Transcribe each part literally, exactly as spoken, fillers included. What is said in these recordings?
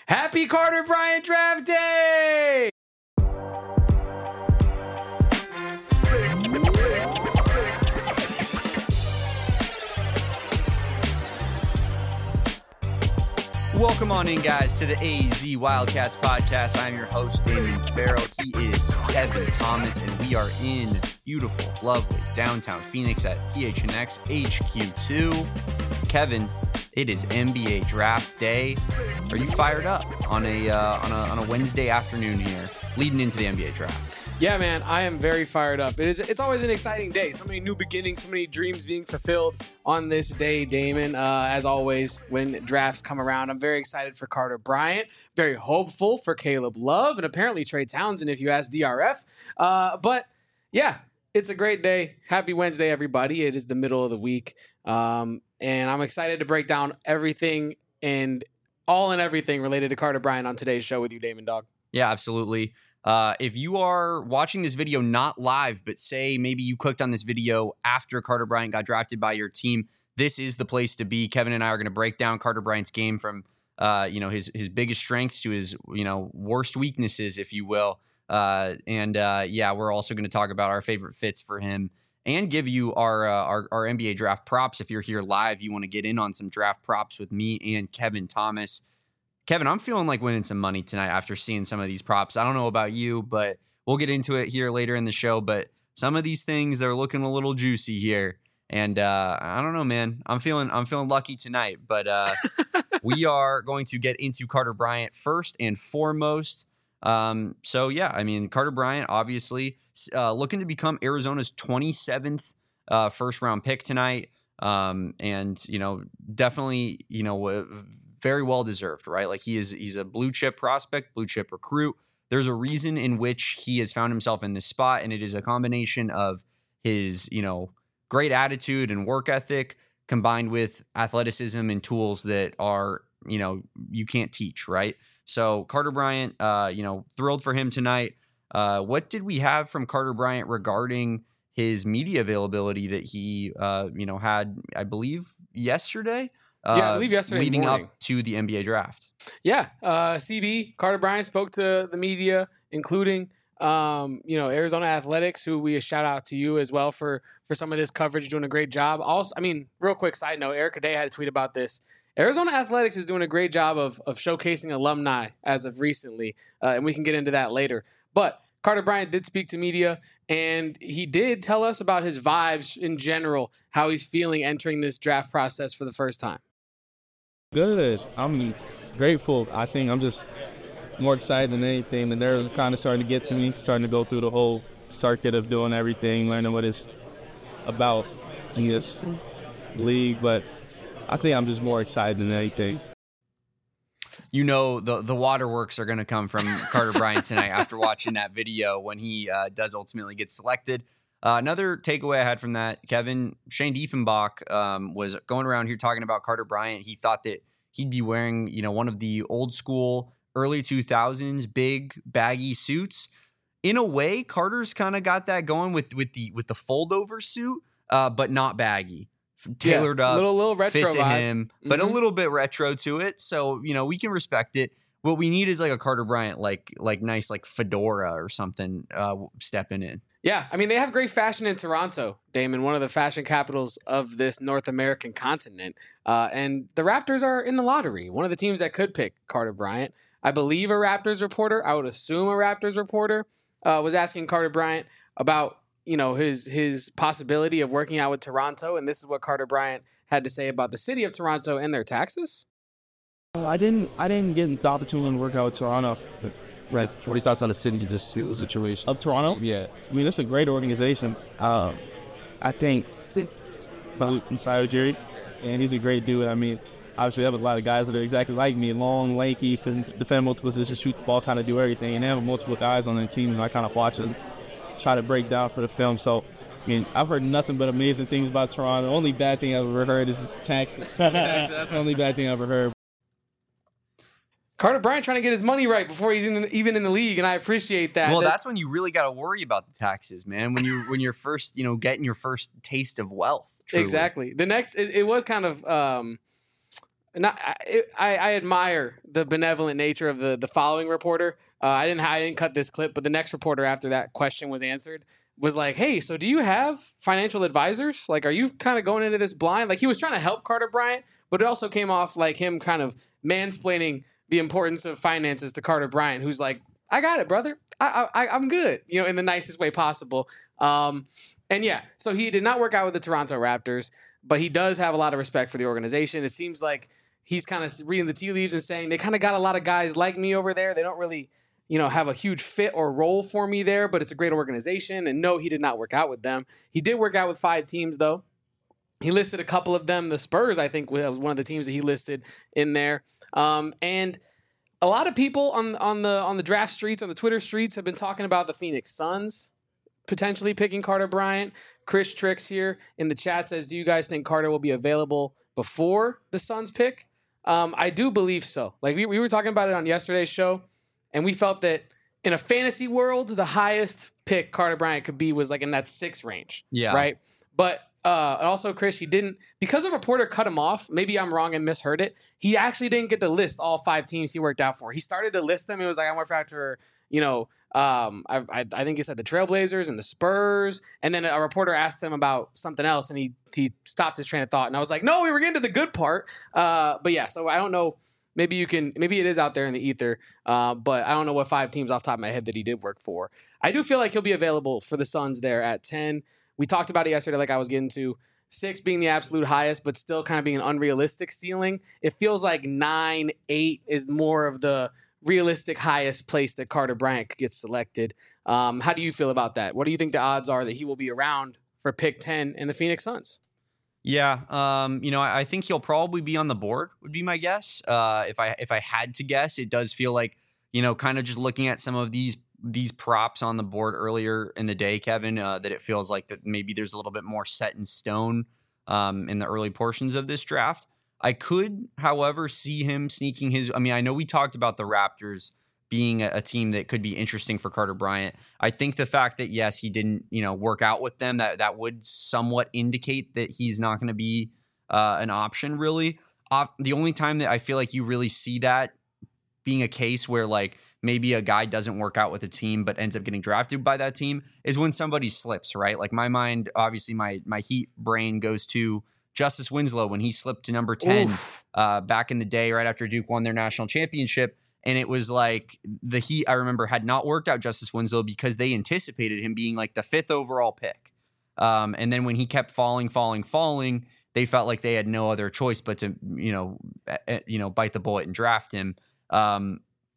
Happy Carter Bryant Draft Day! Welcome on in, guys, to the A Z Wildcats podcast. I'm your host, Damon Farrell. He is Kevin Thomas, and we are in beautiful, lovely downtown Phoenix at P H N X H Q two. Kevin, it is N B A Draft Day. Are you fired up on a uh, on a on a Wednesday afternoon here, leading into the N B A Draft? Yeah, man, I am very fired up. It is. It's always an exciting day. So many new beginnings, so many dreams being fulfilled on this day, Damon. Uh, as always, when drafts come around, I'm very excited for Carter Bryant, very hopeful for Caleb Love, and apparently Trey Townsend, if you ask D R F. Uh, but, yeah, it's a great day. Happy Wednesday, everybody. It is the middle of the week, um, and I'm excited to break down everything and all and everything related to Carter Bryant on today's show with you, Damon Dog. Yeah, absolutely. Uh, if you are watching this video not live, but say maybe you clicked on this video after Carter Bryant got drafted by your team, this is the place to be. Kevin and I are going to break down Carter Bryant's game from, uh, you know, his his biggest strengths to his, you know, worst weaknesses, if you will. Uh, and uh, yeah, we're also going to talk about our favorite fits for him and give you our, uh, our our N B A draft props. If you're here live, you want to get in on some draft props with me and Kevin Thomas. Kevin, I'm feeling like winning some money tonight after seeing some of these props. I don't know about you, but we'll get into it here later in the show. But some of these things, they're looking a little juicy here. And uh, I don't know, man. I'm feeling I'm feeling lucky tonight. But uh, we are going to get into Carter Bryant first and foremost. Um, so, yeah, I mean, Carter Bryant, obviously, uh, looking to become Arizona's twenty-seventh uh, first-round pick tonight. Um, and, you know, definitely, you know, uh, very well deserved, right? Like he is, he's a blue chip prospect, blue chip recruit. There's a reason in which he has found himself in this spot, and it is a combination of his, you know, great attitude and work ethic combined with athleticism and tools that are, you know, you can't teach, right? So Carter Bryant, uh, you know, thrilled for him tonight. Uh, what did we have from Carter Bryant regarding his media availability that he, uh, you know, had, I believe, yesterday? Uh, yeah, I believe yesterday leading morning. up to the N B A draft. Yeah, uh, C B, Carter Bryant spoke to the media, including, um, you know, Arizona Athletics, who we a shout out to you as well for for some of this coverage, doing a great job. Also, I mean, real quick side note, Erica Day had a tweet about this. Arizona Athletics is doing a great job of of showcasing alumni as of recently, uh, and we can get into that later. But Carter Bryant did speak to media, and he did tell us about his vibes in general, how he's feeling entering this draft process for the first time. Good. I'm grateful. I think I'm just more excited than anything. And they're kind of starting to get to me, starting to go through the whole circuit of doing everything, learning what it's about in this league. But I think I'm just more excited than anything. You know, the the waterworks are going to come from Carter Bryant tonight after watching that video when he uh, does ultimately get selected. Uh, another takeaway I had from that, Kevin, Shane Diefenbach um, was going around here talking about Carter Bryant. He thought that he'd be wearing, you know, one of the old school early two thousands big baggy suits. In a way, Carter's kind of got that going with with the with the fold over suit, uh, but not baggy, tailored yeah, up, little little retro fit to vibe. him, but mm-hmm. a little bit retro to it. So you know we can respect it. What we need is like a Carter Bryant, like like nice like fedora or something, uh, stepping in. Yeah, I mean, they have great fashion in Toronto, Damon, one of the fashion capitals of this North American continent. Uh, and the Raptors are in the lottery, one of the teams that could pick Carter Bryant. I believe a Raptors reporter, I would assume a Raptors reporter, uh, was asking Carter Bryant about, you know, his his possibility of working out with Toronto. And this is what Carter Bryant had to say about the city of Toronto and their taxes. I didn't I didn't get the opportunity to work out with Toronto. Right. What are your thoughts on the city, just the situation? Of Toronto? Yeah. I mean, it's a great organization. Um, I think inside Jerry, and he's a great dude. I mean, obviously, they have a lot of guys that are exactly like me, long, lanky, defend multiple positions, shoot the ball, kind of do everything. And they have multiple guys on their team, and I kind of watch them try to break down for the film. So, I mean, I've heard nothing but amazing things about Toronto. The only bad thing I've ever heard is this taxes. That's the only bad thing I've ever heard. Carter Bryant trying to get his money right before he's in the, even in the league, and I appreciate that. Well, that, that's when you really got to worry about the taxes, man. When you when you're first, you know, getting your first taste of wealth. Truly. Exactly. The next, it, it was kind of um, not I, I, I admire the benevolent nature of the the following reporter. Uh, I didn't I didn't cut this clip, but the next reporter after that question was answered was like, "Hey, so do you have financial advisors? Like, are you kind of going into this blind?" Like he was trying to help Carter Bryant, but it also came off like him kind of mansplaining the importance of finances to Carter Bryant, who's like, "I got it, brother. I, I I'm good," you know, in the nicest way possible. Um, and yeah, so he did not work out with the Toronto Raptors, but he does have a lot of respect for the organization. It seems like he's kind of reading the tea leaves and saying they kind of got a lot of guys like me over there. They don't really, you know, have a huge fit or role for me there, but it's a great organization. And no, he did not work out with them. He did work out with five teams, though. He listed a couple of them. The Spurs, I think, was one of the teams that he listed in there. Um, and a lot of people on on the on the draft streets, on the Twitter streets, have been talking about the Phoenix Suns potentially picking Carter Bryant. Chris Tricks here in the chat says, "Do you guys think Carter will be available before the Suns pick?" Um, I do believe so. Like we, we were talking about it on yesterday's show, and we felt that in a fantasy world, the highest pick Carter Bryant could be was like in that six range. Yeah. Right. But uh, and also, Chris, he didn't, because a reporter cut him off. Maybe I'm wrong and misheard it. He actually didn't get to list all five teams he worked out for. He started to list them. It was like, I worked out for, you know, um, I, I, I think he said the Trailblazers and the Spurs. And then a reporter asked him about something else, and he he stopped his train of thought. And I was like, no, we were getting to the good part. Uh, but yeah, so I don't know. Maybe you can, maybe it is out there in the ether, uh, but I don't know what five teams off the top of my head that he did work for. I do feel like he'll be available for the Suns there at ten. We talked about it yesterday, like I was getting to. Six being the absolute highest, but still kind of being an unrealistic ceiling. It feels like nine, eight is more of the realistic highest place that Carter Bryant could get selected. Um, how do you feel about that? What do you think the odds are that he will be around for pick ten in the Phoenix Suns? Yeah, um, you know, I, I think he'll probably be on the board, would be my guess. Uh, if I if I had to guess, it does feel like, you know, kind of just looking at some of these these props on the board earlier in the day, Kevin, uh, that it feels like that maybe there's a little bit more set in stone um, in the early portions of this draft. I could, however, see him sneaking his. I mean, I know we talked about the Raptors being a, a team that could be interesting for Carter Bryant. I think the fact that, yes, he didn't, you know, work out with them, that that would somewhat indicate that he's not going to be uh, an option, really. Uh, the only time that I feel like you really see that being a case where, like, maybe a guy doesn't work out with a team but ends up getting drafted by that team is when somebody slips, right? Like my mind, obviously my my Heat brain goes to Justice Winslow when he slipped to number ten uh, back in the day, right after Duke won their national championship. And it was like the Heat, I remember, had not worked out Justice Winslow because they anticipated him being like the fifth overall pick. Um, and then when he kept falling, falling, falling, they felt like they had no other choice but to, you know, uh, you know, bite the bullet and draft him. Um,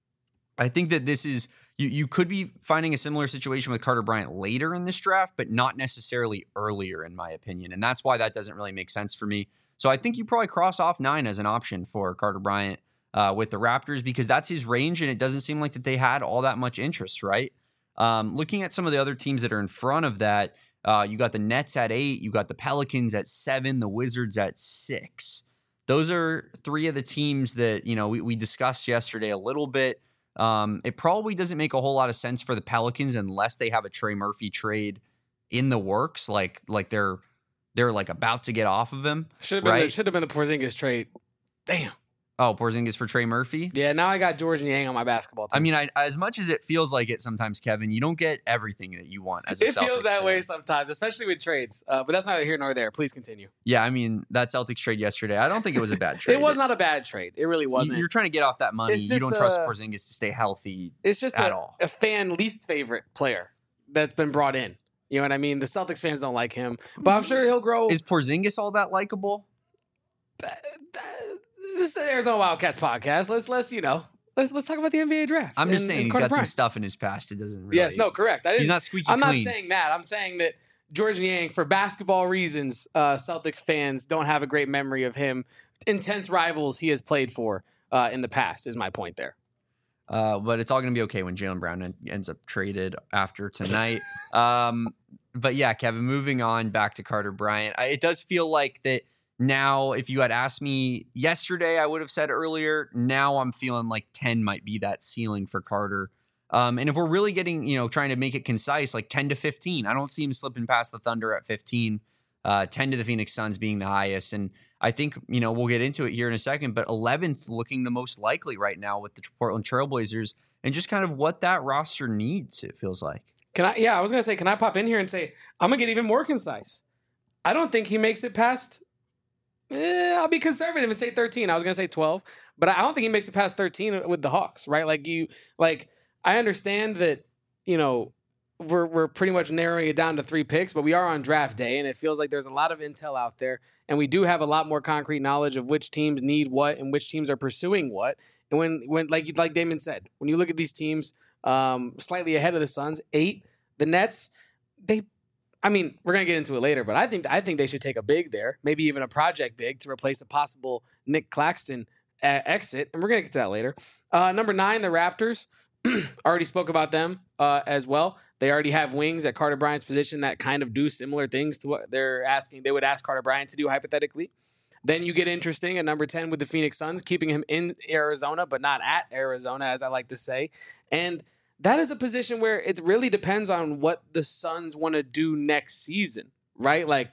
I think that this is, you, you could be finding a similar situation with Carter Bryant later in this draft, but not necessarily earlier, in my opinion. And that's why that doesn't really make sense for me. So I think you probably cross off nine as an option for Carter Bryant uh, with the Raptors, because that's his range, and it doesn't seem like that they had all that much interest, right? Um, looking at some of the other teams that are in front of that, uh, you got the Nets at eight, you got the Pelicans at seven, the Wizards at six. Those are three of the teams that, you know, we, we discussed yesterday a little bit. Um, it probably doesn't make a whole lot of sense for the Pelicans unless they have a Trey Murphy trade in the works, like like they're they're like about to get off of him. Should have been right? the, should have been the Porzingis trade. Damn. Oh, Porzingis for Trey Murphy? Yeah, now I got George Niang on my basketball team. I mean, I, as much as it feels like it sometimes, Kevin, you don't get everything that you want as a It Celtics feels that fan. way sometimes, especially with trades. Uh, but that's neither here nor there. Please continue. Yeah, I mean, that Celtics trade yesterday, I don't think it was a bad trade. It was not a bad trade. It really wasn't. You're trying to get off that money. It's You just don't trust a- Porzingis to stay healthy. It's just at a, all. a fan least favorite player that's been brought in. You know what I mean? The Celtics fans don't like him, but I'm sure he'll grow. Is Porzingis all that likable? This is the Arizona Wildcats podcast. Let's let's you know let's let's talk about the N B A draft. I'm just and- saying and he's Carter got some Bryant. stuff in his past. It doesn't really. Yes, no, correct. I didn't, He's not squeaky I'm clean. not saying that. I'm saying that George Niang, for basketball reasons, uh, Celtic fans don't have a great memory of him. Intense rivals he has played for uh, in the past is my point there. Uh, but it's all going to be okay when Jaylen Brown en- ends up traded after tonight. um, but yeah, Kevin, moving on back to Carter Bryant. I, it does feel like that now, if you had asked me yesterday, I would have said earlier. Now I'm feeling like ten might be that ceiling for Carter. Um, and if we're really getting, you know, trying to make it concise, like ten to fifteen, I don't see him slipping past the Thunder at fifteen, uh, ten to the Phoenix Suns being the highest. And I think, you know, we'll get into it here in a second, but eleventh looking the most likely right now with the Portland Trailblazers and just kind of what that roster needs, it feels like. Can I, yeah, I was going to say, can I pop in here and say, I'm going to get even more concise. I don't think he makes it past, eh, I'll be conservative and say thirteen. I was going to say twelve, but I don't think he makes it past thirteen with the Hawks, right? Like you, like, I understand that, you know, we're we're pretty much narrowing it down to three picks, but we are on draft day, and it feels like there's a lot of intel out there, and we do have a lot more concrete knowledge of which teams need what and which teams are pursuing what. And when when like like Damon said, when you look at these teams um, slightly ahead of the Suns, eight, the Nets, they, I mean, we're gonna get into it later, but I think I think they should take a big there, maybe even a project big to replace a possible Nick Claxton uh, exit, and we're gonna get to that later. Uh, number nine, the Raptors. Already spoke about them uh, as well. They already have wings at Carter Bryant's position that kind of do similar things to what they're asking. They would ask Carter Bryant to do hypothetically. Then you get interesting at number ten with the Phoenix Suns, keeping him in Arizona, but not at Arizona, as I like to say. And that is a position where it really depends on what the Suns want to do next season, right? Like,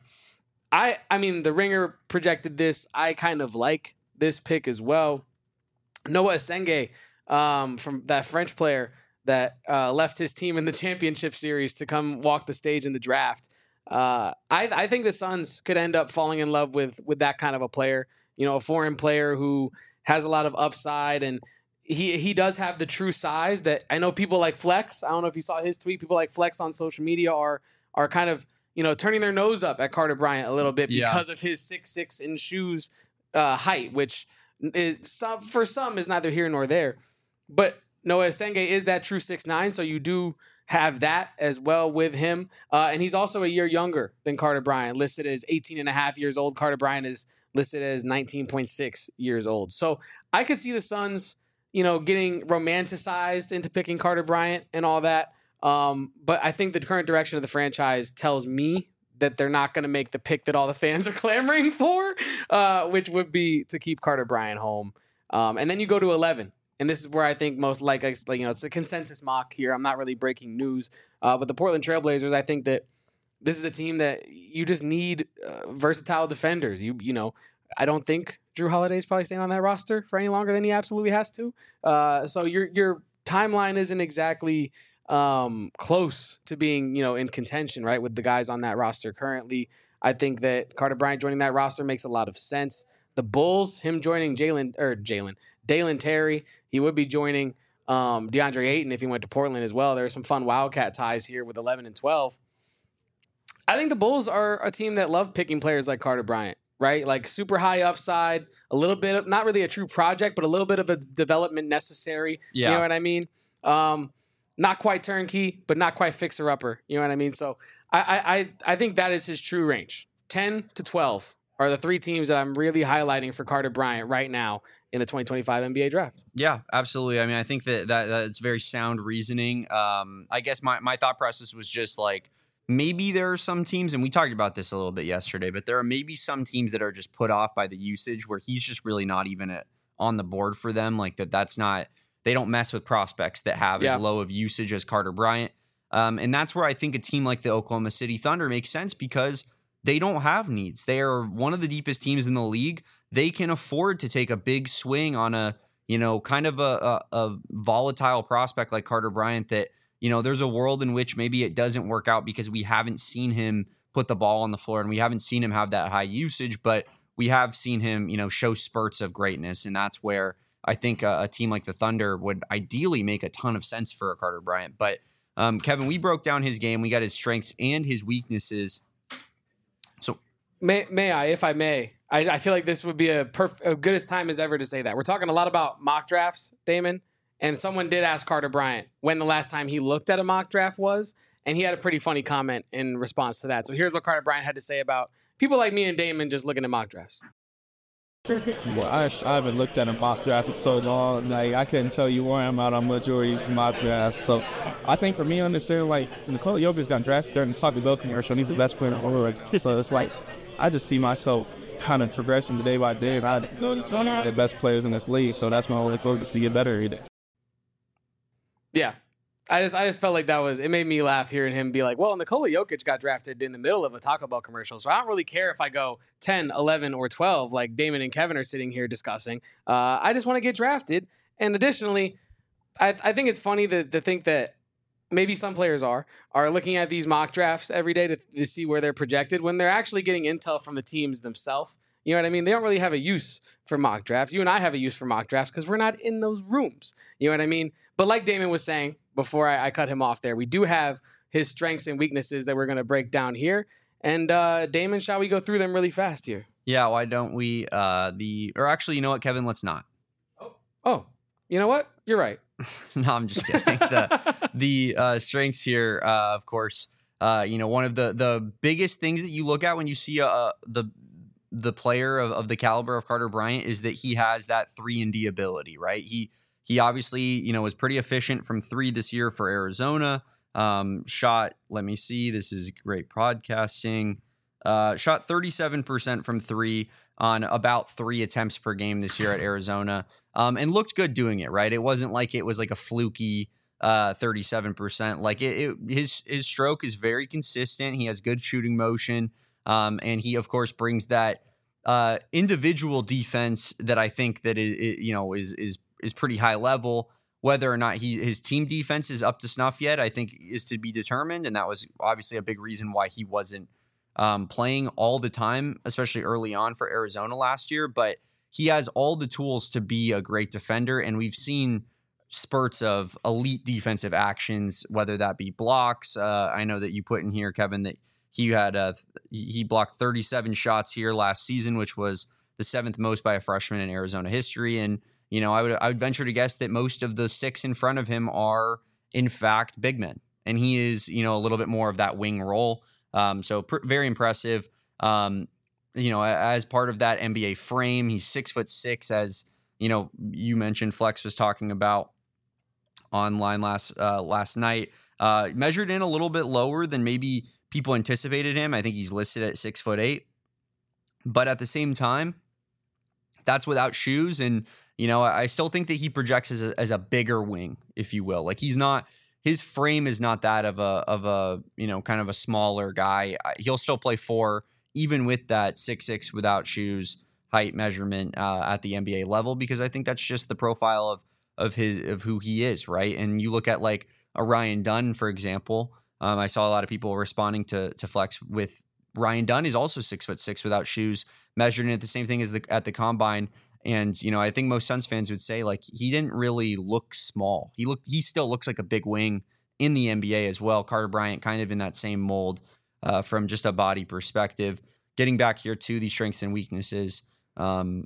I, I mean, the Ringer projected this. I kind of like this pick as well. Noah Asenge, Um, from that French player that uh, left his team in the championship series to come walk the stage in the draft. Uh, I, I think the Suns could end up falling in love with with that kind of a player. You know, a foreign player who has a lot of upside, and he he does have the true size that I know people like Flex. I don't know if you saw his tweet. People like Flex on social media are are kind of, you know, turning their nose up at Carter Bryant a little bit Yeah. because of his six six in shoes uh, height, which is, some, for some is neither here nor there. But Noah Asenge is that true six nine, so you do have that as well with him. Uh, and he's also a year younger than Carter Bryant, listed as eighteen and a half years old. Carter Bryant is listed as nineteen point six years old. So I could see the Suns, you know, getting romanticized into picking Carter Bryant and all that. Um, but I think the current direction of the franchise tells me that they're not going to make the pick that all the fans are clamoring for, uh, which would be to keep Carter Bryant home. Um, and then you go to eleven. And this is where I think most like, like you know, it's a consensus mock here. I'm not really breaking news. Uh, but the Portland Trailblazers, I think that this is a team that you just need uh, versatile defenders. You you know, I don't think Drew Holiday is probably staying on that roster for any longer than he absolutely has to. Uh, so your your timeline isn't exactly um, close to being, you know, in contention, right, with the guys on that roster currently. I think that Carter Bryant joining that roster makes a lot of sense. The Bulls, him joining Jalen or Jalen, Dalen Terry, he would be joining um, DeAndre Ayton if he went to Portland as well. There are some fun Wildcat ties here with eleven and twelve. I think the Bulls are a team that love picking players like Carter Bryant, right? Like super high upside, a little bit of, not really a true project, but a little bit of a development necessary. Yeah. You know what I mean? Um, not quite turnkey, but not quite fixer upper. You know what I mean? So I I I think that is his true range. ten to twelve are the three teams that I'm really highlighting for Carter Bryant right now in the twenty twenty-five N B A draft. Yeah, absolutely. I mean, I think that, that that's very sound reasoning. Um, I guess my, my thought process was just like, maybe there are some teams, and we talked about this a little bit yesterday, but there are maybe some teams that are just put off by the usage where he's just really not even a, on the board for them. Like that, that's not, they don't mess with prospects that have Yeah. as low of usage as Carter Bryant. Um, and that's where I think a team like the Oklahoma City Thunder makes sense because they don't have needs. They are one of the deepest teams in the league. They can afford to take a big swing on a, you know, kind of a, a, a volatile prospect like Carter Bryant that, you know, there's a world in which maybe it doesn't work out because we haven't seen him put the ball on the floor and we haven't seen him have that high usage, but we have seen him, you know, show spurts of greatness. And that's where I think a, a team like the Thunder would ideally make a ton of sense for a Carter Bryant. But um, Kevin, we broke down his game. We got his strengths and his weaknesses. So May, may I, if I may, I, I feel like this would be a perf- a good as time as ever to say that. We're talking a lot about mock drafts, Damon, and someone did ask Carter Bryant when the last time he looked at a mock draft was, and he had a pretty funny comment in response to that. So here's what Carter Bryant had to say about people like me and Damon just looking at mock drafts. Well, I, I haven't looked at a mock draft in so long. Like, I couldn't tell you where I'm at on majority of mock drafts. So I think for me, understanding, like, Nikola Jokic got drafted during the Taco Bell commercial, and he's the best player in the world. So it's like, I just see myself kind of progressing day by day. And I the best players in this league. So that's my only focus, to get better every day. Yeah. I just I just felt like that was, it made me laugh hearing him be like, well, Nikola Jokic got drafted in the middle of a Taco Bell commercial, so I don't really care if I go ten, eleven, or twelve like Damon and Kevin are sitting here discussing. Uh, I just want to get drafted. And additionally, I, I think it's funny to, to think that maybe some players are are looking at these mock drafts every day to, to see where they're projected when they're actually getting intel from the teams themselves. You know what I mean? They don't really have a use for mock drafts. You and I have a use for mock drafts because we're not in those rooms. You know what I mean? But like Damon was saying before I, I cut him off there, we do have his strengths and weaknesses that we're going to break down here. And uh, Damon, shall we go through them really fast here? Yeah, why don't we? Uh, the Or actually, you know what, Kevin? Let's not. Oh, oh you know what? You're right. No, I'm just kidding. the the uh, strengths here, uh, of course, uh, you know, one of the, the biggest things that you look at when you see uh, the the player of, of the caliber of Carter Bryant is that he has that three and D ability, right? He he obviously, you know, was pretty efficient from three this year for Arizona. Um, shot, let me see, this is great podcasting. Uh, shot thirty-seven percent from three on about three attempts per game this year at Arizona, um, and looked good doing it, right? It wasn't like it was like a fluky uh, thirty-seven percent. Like it, it, his his stroke is very consistent. He has good shooting motion. Um, and he, of course, brings that uh, individual defense that I think that it, it, you know is is is pretty high level. Whether or not he his team defense is up to snuff yet, I think is to be determined. And that was obviously a big reason why he wasn't um, playing all the time, especially early on for Arizona last year. But he has all the tools to be a great defender, and we've seen spurts of elite defensive actions, whether that be blocks. Uh, I know that you put in here, Kevin, that He had uh, he blocked thirty-seven shots here last season, which was the seventh most by a freshman in Arizona history. And you know, I would I would venture to guess that most of the six in front of him are in fact big men, and he is you know a little bit more of that wing role. Um, so pr- very impressive. Um, you know, as part of that N B A frame, he's six foot six, as you know you mentioned. Flex was talking about online last uh, last night. Uh, measured in a little bit lower than maybe people anticipated him. I think he's listed at six foot eight, but at the same time, that's without shoes. And, you know, I still think that he projects as a, as a bigger wing, if you will. Like he's not, his frame is not that of a, of a, you know, kind of a smaller guy. He'll still play four, even with that six, six without shoes height measurement uh, at the N B A level, because I think that's just the profile of, of his, of who he is. Right. And you look at like a Ryan Dunn, for example. Um, I saw a lot of people responding to to Flex with Ryan Dunn is also six foot six without shoes, measured at the same thing as the at the combine. And you know, I think most Suns fans would say like he didn't really look small. He look he still looks like a big wing in the N B A as well. Carter Bryant kind of in that same mold uh, from just a body perspective. Getting back here to the strengths and weaknesses, um,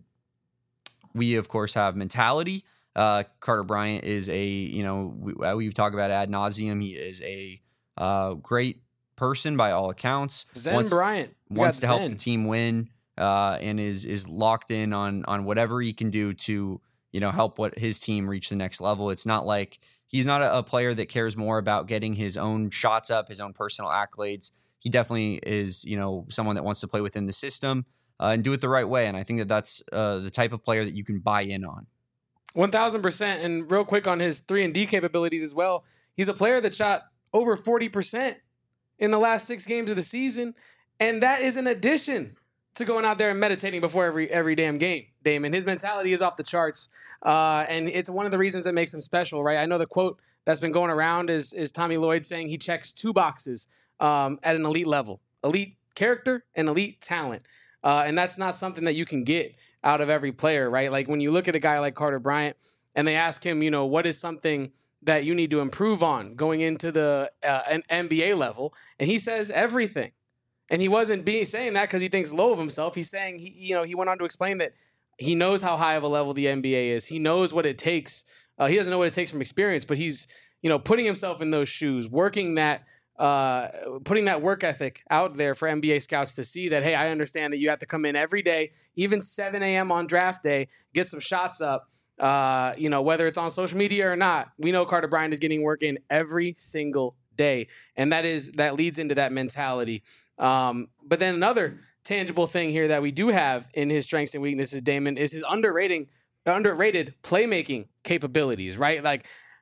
we of course have mentality. Uh, Carter Bryant is a you know we, we've talked about ad nauseum. He is a Uh, great person by all accounts. Zen wants, Bryant we wants to Zen. help the team win, uh, and is is locked in on on whatever he can do to you know help what his team reach the next level. It's not like he's not a, a player that cares more about getting his own shots up, his own personal accolades. He definitely is you know someone that wants to play within the system uh, and do it the right way. And I think that that's uh, the type of player that you can buy in on. one thousand percent. And real quick on his three and D capabilities as well. He's a player that shot over forty percent in the last six games of the season. And that is in addition to going out there and meditating before every every damn game, Damon. His mentality is off the charts. Uh, and it's one of the reasons that makes him special, right? I know the quote that's been going around is, is Tommy Lloyd saying he checks two boxes um, at an elite level. Elite character and elite talent. Uh, and that's not something that you can get out of every player, right? Like when you look at a guy like Carter Bryant and they ask him, you know, what is something that you need to improve on going into the uh, an N B A level, and he says everything. And he wasn't being saying that because he thinks low of himself. He's saying he, you know, he went on to explain that he knows how high of a level the N B A is. He knows what it takes. Uh, he doesn't know what it takes from experience, but he's, you know, putting himself in those shoes, working that, uh, putting that work ethic out there for N B A scouts to see that, hey, I understand that you have to come in every day, even seven a.m. on draft day, get some shots up. Uh, you know, whether it's on social media or not, we know Carter Bryant is getting work in every single day. And that is, that leads into that mentality. Um, but then another tangible thing here that we do have in his strengths and weaknesses, Damon, is his underrating, underrated playmaking capabilities, right? Like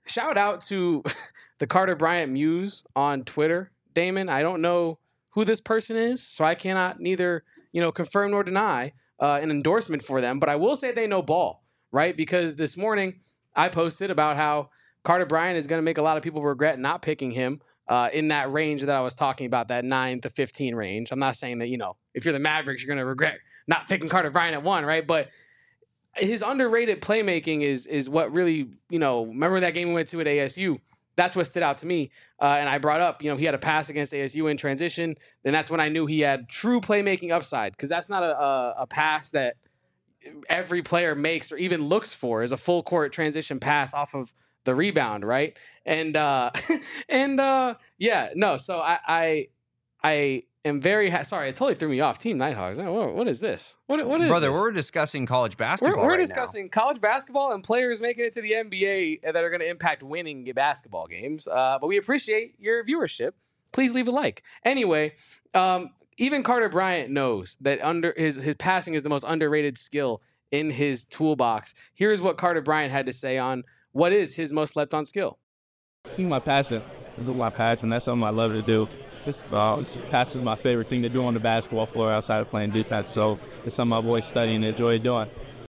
shout out to the Carter Bryant Muse on Twitter, Damon. I don't know who this person is, so I cannot neither, you know, confirm nor deny uh, an endorsement for them. But I will say they know ball, right? Because this morning I posted about how Carter Bryant is going to make a lot of people regret not picking him uh, in that range that I was talking about, that nine to fifteen range. I'm not saying that, you know, if you're the Mavericks, you're going to regret not picking Carter Bryant at one, right? But his underrated playmaking is is what really, you know, remember that game we went to at A S U? That's what stood out to me. Uh, and I brought up, you know, he had a pass against A S U in transition. Then that's when I knew he had true playmaking upside, because that's not a, a, a pass that every player makes or even looks for, is a full court transition pass off of the rebound, right? And uh, and uh, yeah, no. So I I, I am very ha- sorry. It totally threw me off. Team Nighthawks. What, what is this? What what is brother? this? We're discussing college basketball. We're, we're right discussing now. college basketball and players making it to the N B A that are going to impact winning basketball games. Uh, but we appreciate your viewership. Please leave a like. Anyway, um, even Carter Bryant knows that under his his passing is the most underrated skill in his toolbox. Here's what Carter Bryant had to say on what is his most slept on skill. I think my passing is my passion. That's something I love to do. Just uh, passing is my favorite thing to do on the basketball floor outside of playing defense. So it's something I've always studied and enjoyed doing.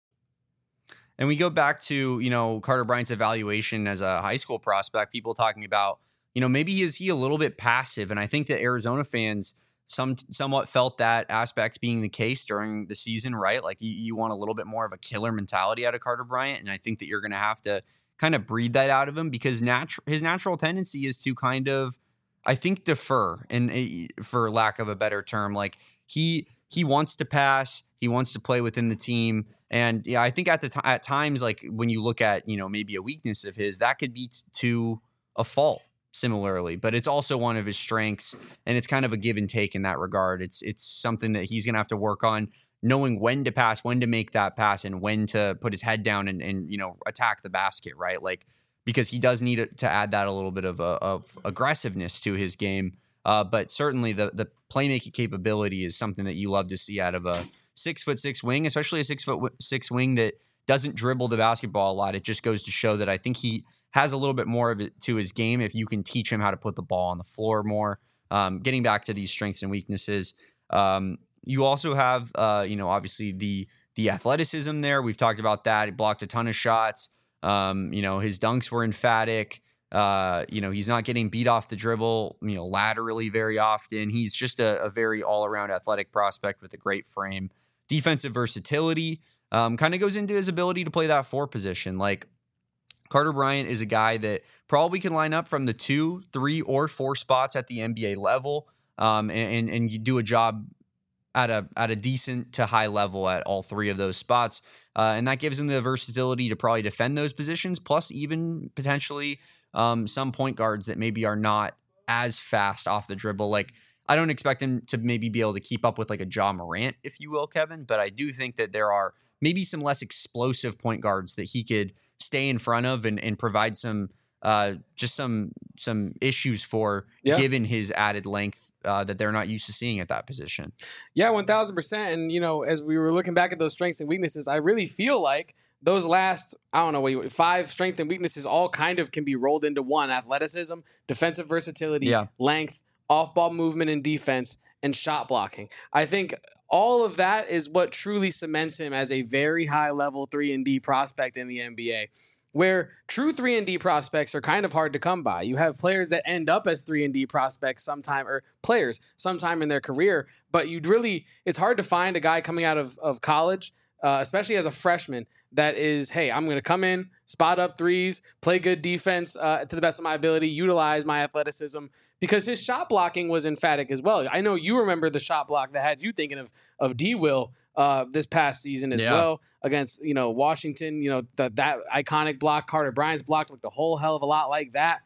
And we go back to, you know, Carter Bryant's evaluation as a high school prospect, people talking about, you know, maybe is he a little bit passive? And I think that Arizona fans some somewhat felt that aspect being the case during the season, right? Like you, you want a little bit more of a killer mentality out of Carter Bryant. And I think that you're going to have to kind of breed that out of him, because natu- his natural tendency is to kind of, I think, defer, and uh, for lack of a better term, like he he wants to pass, he wants to play within the team, and yeah, I think at the t- at times, like when you look at, you know, maybe a weakness of his, that could be t- to a fault similarly, but it's also one of his strengths, and it's kind of a give and take in that regard. It's it's something that he's gonna have to work on, knowing when to pass, when to make that pass, and when to put his head down and and you know attack the basket, right? Like, because he does need to add that a little bit of, a, of aggressiveness to his game. Uh, but certainly the the playmaking capability is something that you love to see out of a six foot six wing, especially a six foot six wing that doesn't dribble the basketball a lot. It just goes to show that I think he has a little bit more of it to his game if you can teach him how to put the ball on the floor more. Um, getting back to these strengths and weaknesses, um, you also have, uh, you know, obviously the the athleticism there. We've talked about that. He blocked a ton of shots. Um, you know, his dunks were emphatic. Uh, you know, he's not getting beat off the dribble, you know, laterally very often. He's just a, a very all-around athletic prospect with a great frame. Defensive versatility um, kind of goes into his ability to play that four position. Like, Carter Bryant is a guy that probably can line up from the two, three, or four spots at the N B A level, um, and, and and you do a job at a at a decent to high level at all three of those spots. Uh, and that gives him the versatility to probably defend those positions, plus even potentially um, some point guards that maybe are not as fast off the dribble. Like, I don't expect him to maybe be able to keep up with like a Ja Morant, if you will, Kevin, but I do think that there are maybe some less explosive point guards that he could stay in front of and, and provide some uh, just some some issues for, yeah, given his added length uh, that they're not used to seeing at that position. Yeah, one thousand percent. And, you know, as we were looking back at those strengths and weaknesses, I really feel like those last, I don't know, what you, five strengths and weaknesses all kind of can be rolled into one: athleticism, defensive versatility, yeah, length, off-ball movement and defense, and shot blocking. I think all of that is what truly cements him as a very high-level three and D prospect in the N B A, where true three and D prospects are kind of hard to come by. You have players that end up as three and D prospects sometime, or players sometime in their career, but you'd really, it's hard to find a guy coming out of, of college, uh, especially as a freshman, that is, hey, I'm going to come in, spot up threes, play good defense uh, to the best of my ability, utilize my athleticism, because his shot blocking was emphatic as well. I know you remember the shot block that had you thinking of of D-Will uh, this past season as yeah. well against, you know, Washington. You know, the, that iconic block, Carter Bryant's block looked a whole hell of a lot like that.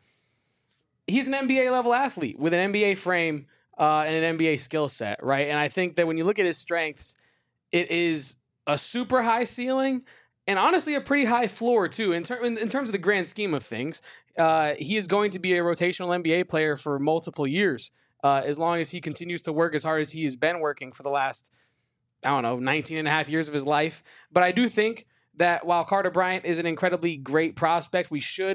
He's an N B A level athlete with an N B A frame uh, and an N B A skill set, right? And I think that when you look at his strengths, it is a super high ceiling and honestly a pretty high floor too. In, ter- in, in terms of the grand scheme of things, uh, he is going to be a rotational N B A player for multiple years, uh, as long as he continues to work as hard as he has been working for the last, I don't know, nineteen and a half years of his life. But I do think that while Carter Bryant is an incredibly great prospect, we should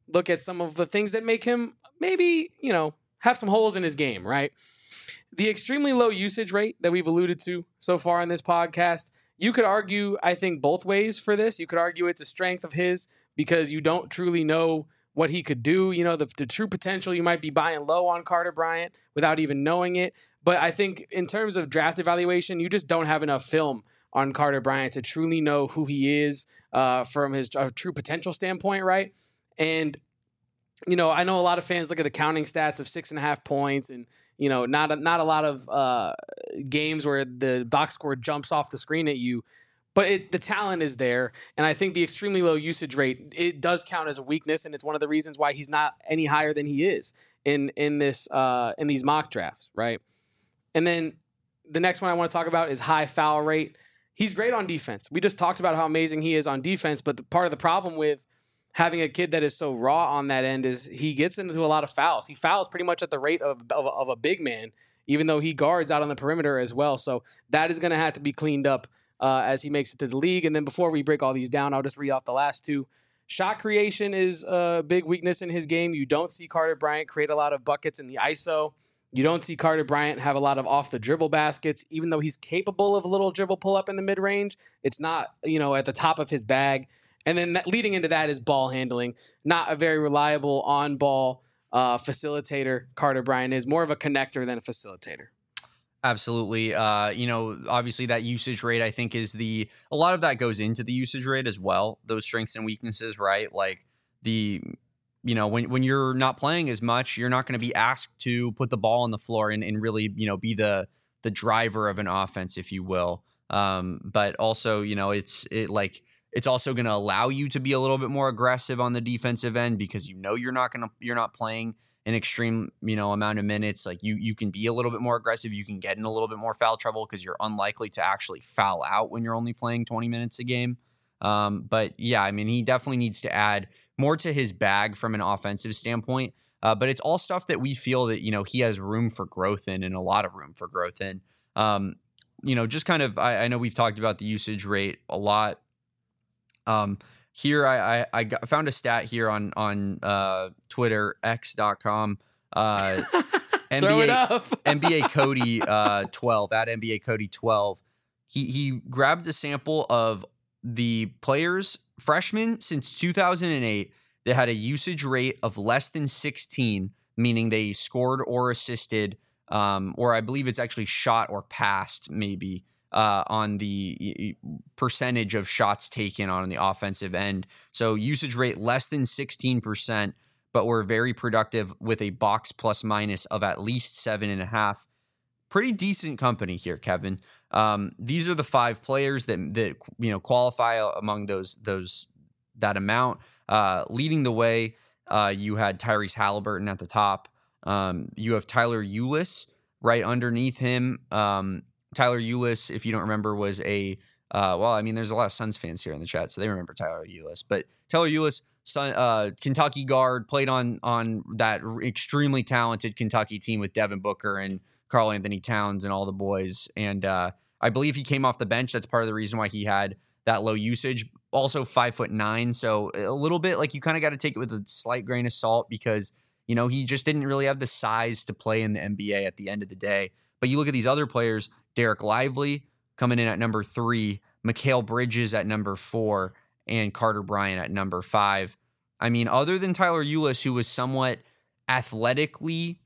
look at some of the things that make him maybe, you know, have some holes in his game, right? The extremely low usage rate that we've alluded to so far in this podcast, you could argue, I think, both ways for this. You could argue it's a strength of his because you don't truly know what he could do. You know, the, the true potential, you might be buying low on Carter Bryant without even knowing it. But I think in terms of draft evaluation, you just don't have enough film on Carter Bryant to truly know who he is uh, from his uh, true potential standpoint, right? And, you know, I know a lot of fans look at the counting stats of six and a half points and, you know, not a, not a lot of uh, games where the box score jumps off the screen at you. But it, the talent is there, and I think the extremely low usage rate, it does count as a weakness, and it's one of the reasons why he's not any higher than he is in in this uh, in these mock drafts, right? And then the next one I want to talk about is high foul rate. He's great on defense. We just talked about how amazing he is on defense, but the, part of the problem with having a kid that is so raw on that end is he gets into a lot of fouls. He fouls pretty much at the rate of, of, of a big man, even though he guards out on the perimeter as well. So that is going to have to be cleaned up uh, as he makes it to the league. And then before we break all these down, I'll just read off the last two. Shot creation is a big weakness in his game. You don't see Carter Bryant create a lot of buckets in the I S O. You don't see Carter Bryant have a lot of off-the-dribble baskets, even though he's capable of a little dribble pull-up in the mid-range. It's not, you know, at the top of his bag. And then that, leading into that is ball handling. Not a very reliable on-ball uh, facilitator. Carter Bryant is more of a connector than a facilitator. Absolutely. Uh, you know, obviously that usage rate, I think, is the a lot of that goes into the usage rate as well. Those strengths and weaknesses, right? Like the, you know, when when you're not playing as much, you're not going to be asked to put the ball on the floor and, and really, you know, be the the driver of an offense, if you will. Um, but also, you know, it's it like it's also going to allow you to be a little bit more aggressive on the defensive end because you know you're not going to you're not playing an extreme, you know, amount of minutes. Like you, you can be a little bit more aggressive. You can get in a little bit more foul trouble because you're unlikely to actually foul out when you're only playing twenty minutes a game. Um, but yeah, I mean, he definitely needs to add more to his bag from an offensive standpoint. Uh, but it's all stuff that we feel that, you know, he has room for growth in and a lot of room for growth in. Um, you know, just kind of, I, I know we've talked about the usage rate a lot. Um, Here, I I, I got, found a stat here on on uh, Twitter, x dot com. Uh, N B A, Throw it up. N B A Cody uh, twelve, at N B A Cody twelve. He, he grabbed a sample of the players, freshmen since two thousand eight, that had a usage rate of less than sixteen, meaning they scored or assisted, um, or I believe it's actually shot or passed, maybe. Uh, on the percentage of shots taken on the offensive end. So usage rate less than sixteen percent, but we're very productive with a box plus minus of at least seven and a half. Pretty decent company here, Kevin. Um, these are the five players that that you know qualify among those those that amount. Uh, leading the way, uh, you had Tyrese Halliburton at the top. Um, you have Tyler Ulis right underneath him. Um, Tyler Ulis, if you don't remember, was a uh, well. I mean, there's a lot of Suns fans here in the chat, so they remember Tyler Ulis. But Tyler Ulis, son, uh, Kentucky guard, played on on that extremely talented Kentucky team with Devin Booker and Karl Anthony Towns and all the boys. And uh, I believe he came off the bench. That's part of the reason why he had that low usage. Also, five foot nine, so a little bit like you kind of got to take it with a slight grain of salt because you know he just didn't really have the size to play in the N B A at the end of the day. But you look at these other players. Derek Lively coming in at number three, Mikal Bridges at number four, and Carter Bryant at number five. I mean, other than Tyler Ulis, who was somewhat athletically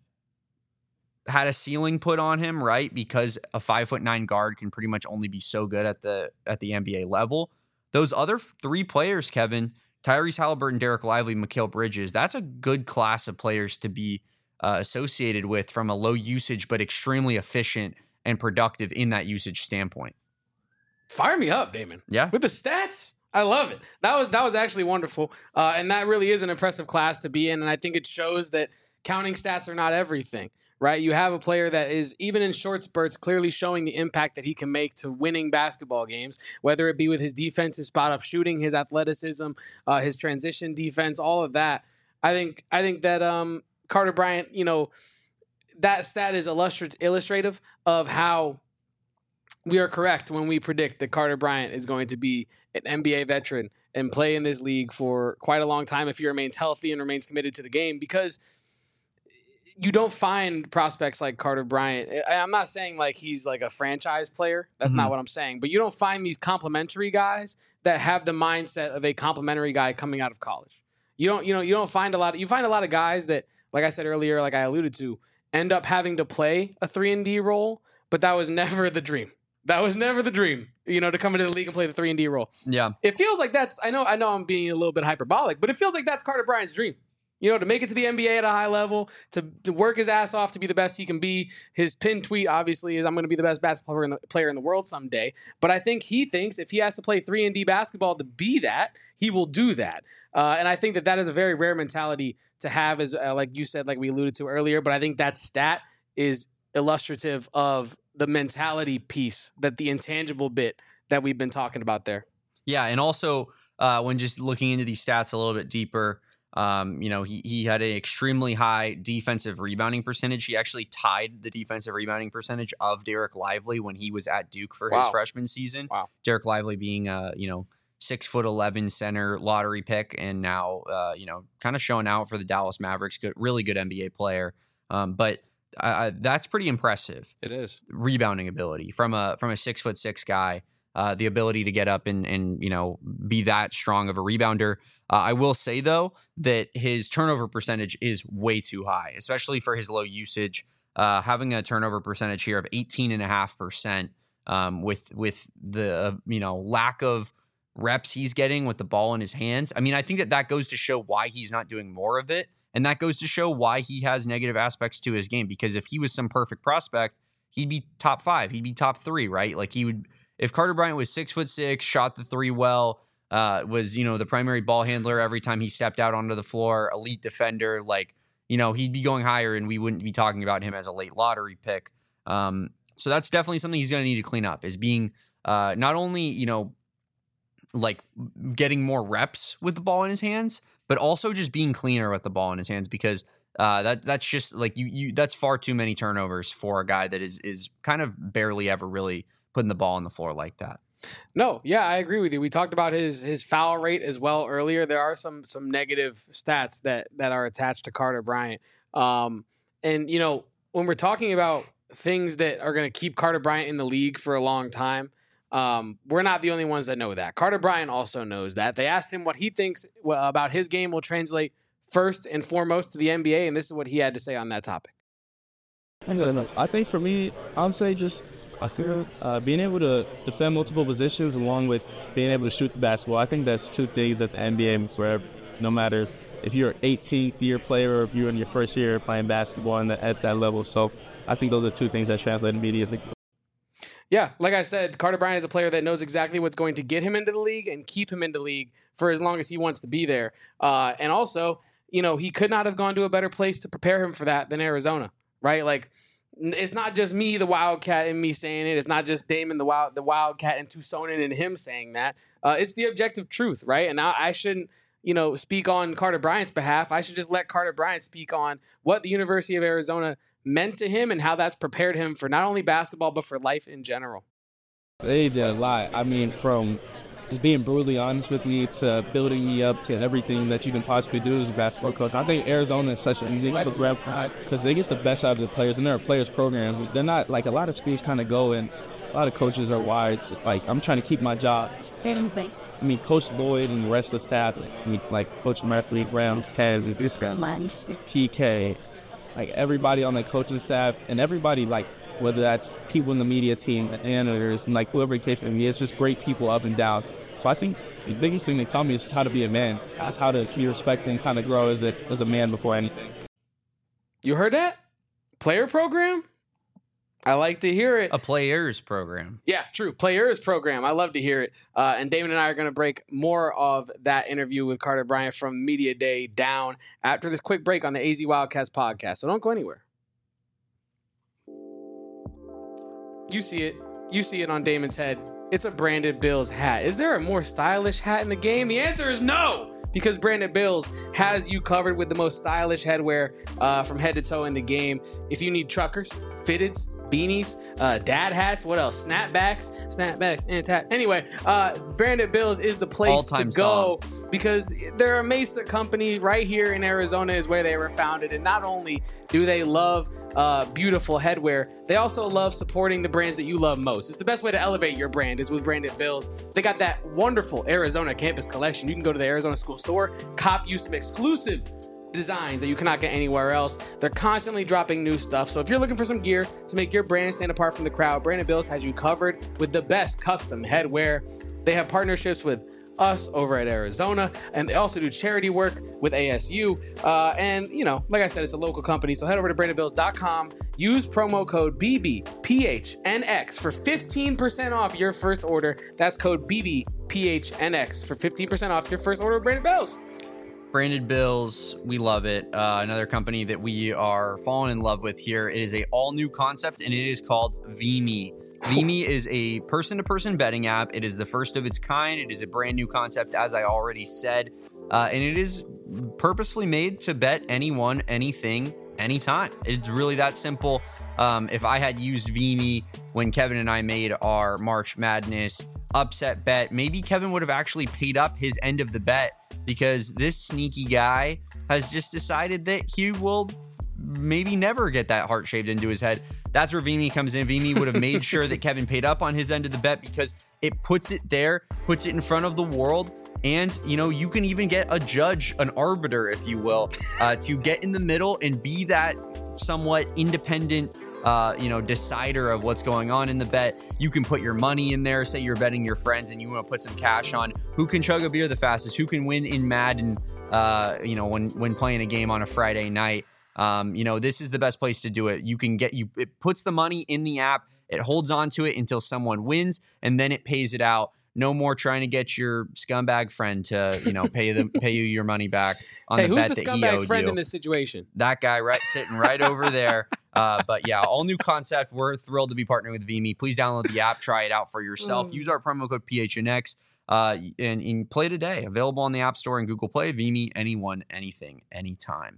had a ceiling put on him, right? Because a five foot nine guard can pretty much only be so good at the at the N B A level. Those other three players, Kevin, Tyrese Halliburton, Derek Lively, Mikal Bridges, that's a good class of players to be uh, associated with from a low usage but extremely efficient and productive in that usage standpoint. Fire me up, Damon. Yeah. With the stats, I love it. That was that was actually wonderful. Uh, and that really is an impressive class to be in. And I think it shows that counting stats are not everything, right? You have a player that is, even in short spurts, clearly showing the impact that he can make to winning basketball games, whether it be with his defense, his spot-up shooting, his athleticism, uh, his transition defense, all of that. I think I think that um, Carter Bryant, you know, that stat is illustrat- illustrative of how we are correct when we predict that Carter Bryant is going to be an N B A veteran and play in this league for quite a long time if he remains healthy and remains committed to the game, because you don't find prospects like Carter Bryant. I'm not saying like he's like a franchise player. That's mm-hmm. not what I'm saying. But you don't find these complimentary guys that have the mindset of a complimentary guy coming out of college. You don't, you know, you don't find a lot. Of, you find a lot of guys that, like I said earlier, like I alluded to, end up having to play a three and D role, but that was never the dream. That was never the dream, you know, to come into the league and play the three and D role. Yeah. It feels like that's, I know, I know I'm being a little bit hyperbolic, but it feels like that's Carter Bryant's dream. You know, to make it to the N B A at a high level, to, to work his ass off to be the best he can be. His pinned tweet, obviously, is I'm going to be the best basketball player in, the, player in the world someday. But I think he thinks if he has to play three and D basketball to be that, he will do that. Uh, and I think that that is a very rare mentality to have, as uh, like you said, like we alluded to earlier. But I think that stat is illustrative of the mentality piece, that the intangible bit that we've been talking about there. Yeah, and also uh, when just looking into these stats a little bit deeper, Um, you know, he he had an extremely high defensive rebounding percentage. He actually tied the defensive rebounding percentage of Derek Lively when he was at Duke for wow. his freshman season. Wow. Derek Lively being a, you know, six foot eleven center lottery pick, and now, uh, you know, kind of showing out for the Dallas Mavericks. Good, really good N B A player. Um, but uh, that's pretty impressive. It is. Rebounding ability from a from a six foot six guy. Uh, the ability to get up and, and, you know, be that strong of a rebounder. Uh, I will say, though, that his turnover percentage is way too high, especially for his low usage. Uh, having a turnover percentage here of eighteen point five percent um, with with the, uh, you know, lack of reps he's getting with the ball in his hands. I mean, I think that that goes to show why he's not doing more of it. And that goes to show why he has negative aspects to his game. Because if he was some perfect prospect, he'd be top five. He'd be top three, right? Like he would... If Carter Bryant was six foot six, shot the three well, uh, was, you know, the primary ball handler every time he stepped out onto the floor, elite defender, like, you know, he'd be going higher and we wouldn't be talking about him as a late lottery pick. Um, so that's definitely something he's going to need to clean up, is being uh, not only, you know, like getting more reps with the ball in his hands, but also just being cleaner with the ball in his hands, because uh, that that's just like you, you, that's far too many turnovers for a guy that is, is kind of barely ever really putting the ball on the floor like that. No, yeah, I agree with you. We talked about his his foul rate as well earlier. There are some some negative stats that that are attached to Carter Bryant. Um, and, you know, when we're talking about things that are going to keep Carter Bryant in the league for a long time, um, we're not the only ones that know that. Carter Bryant also knows that. They asked him what he thinks about his game will translate first and foremost to the N B A, and this is what he had to say on that topic. I think for me, I would say just I feel uh, being able to defend multiple positions along with being able to shoot the basketball. I think that's two things that the N B A is for, no matter if you're an eighteenth year player or if you're in your first year playing basketball in the, at that level. So I think those are two things that translate immediately. Yeah, like I said, Carter Bryant is a player that knows exactly what's going to get him into the league and keep him in the league for as long as he wants to be there. Uh, and also, you know, he could not have gone to a better place to prepare him for that than Arizona, right? Like, it's not just me, the Wildcat, and me saying it. It's not just Damon, the Wild, the Wildcat, and Tucsonin and him saying that. Uh, it's the objective truth, right? And I, I shouldn't, you know, speak on Carter Bryant's behalf. I should just let Carter Bryant speak on what the University of Arizona meant to him and how that's prepared him for not only basketball but for life in general. They did a lot. I mean, from just being brutally honest with me to building me up to everything that you can possibly do as a basketball coach. I think Arizona is such a unique program because they get the best out of the players, and they're players programs. They're not like a lot of schools kind of go and a lot of coaches are wired. Like, I'm trying to keep my job. I mean, Coach Lloyd and the rest of the staff, I mean, like Coach Murphy, Brown, Kansas, P K, like everybody on the coaching staff and everybody, like, whether that's people in the media team, editors, and like whoever the case may be, it's just great people up and down. So I think the biggest thing they tell me is just how to be a man. That's how to be respected and kind of grow as a, as a man before anything. You heard that? Player program? I like to hear it. A players program. Yeah, true. Players program. I love to hear it. Uh, and Damon and I are going to break more of that interview with Carter Bryant from Media Day down after this quick break on the A Z Wildcats podcast. So don't go anywhere. You see it. You see it on Damon's head. It's a Brandon Bills hat. Is there a more stylish hat in the game? The answer is no, because Brandon Bills has you covered with the most stylish headwear uh, from head to toe in the game. If you need truckers, fitteds, beanies, uh, dad hats. What else? Snapbacks, snapbacks, and tap. Anyway, uh, Branded Bills is the place All-time to go because they're a Mesa company right here in Arizona is where they were founded. And not only do they love uh, beautiful headwear, they also love supporting the brands that you love most. It's the best way to elevate your brand is with Branded Bills. They got that wonderful Arizona campus collection. You can go to the Arizona School Store, cop you some exclusive designs that you cannot get anywhere else. They're constantly dropping new stuff. So if you're looking for some gear to make your brand stand apart from the crowd, Branded Bills has you covered with the best custom headwear. They have partnerships with us over at Arizona, and they also do charity work with A S U. Uh, and, you know, like I said, it's a local company. So head over to branded bills dot com. Use promo code B B P H N X for fifteen percent off your first order. That's code B B P H N X for fifteen percent off your first order of Branded Bills. Branded Bills, we love it. Uh, another company that we are falling in love with here. It is a all new concept, and it is called Vimy. Vimy is a person-to-person betting app. It is the first of its kind. It is a brand new concept, as I already said, uh, and it is purposefully made to bet anyone, anything, anytime. It's really that simple. Um, if I had used Vimy when Kevin and I made our March Madness upset bet, maybe Kevin would have actually paid up his end of the bet, because this sneaky guy has just decided that he will maybe never get that heart shaved into his head. That's where Vimy comes in. Vimy would have made sure that Kevin paid up on his end of the bet because it puts it there, puts it in front of the world. And, you know, you can even get a judge, an arbiter, if you will, uh, to get in the middle and be that somewhat independent Uh, you know, decider of what's going on in the bet. You can put your money in there. Say you're betting your friends and you want to put some cash on who can chug a beer the fastest, who can win in Madden, uh, you know, when when playing a game on a Friday night. Um, you know, this is the best place to do it. You can get you. It puts the money in the app. It holds on to it until someone wins, and then it pays it out. No more trying to get your scumbag friend to, you know, pay them, pay you your money back on hey, the bet who's the that he owed scumbag friend you. in this situation? That guy right sitting right over there. Uh, but yeah, all new concept. We're thrilled to be partnering with Vimy. Please download the app, try it out for yourself. Mm. Use our promo code P H N X uh, and, and play today. Available on the App Store and Google Play. Vimy, anyone, anything, anytime.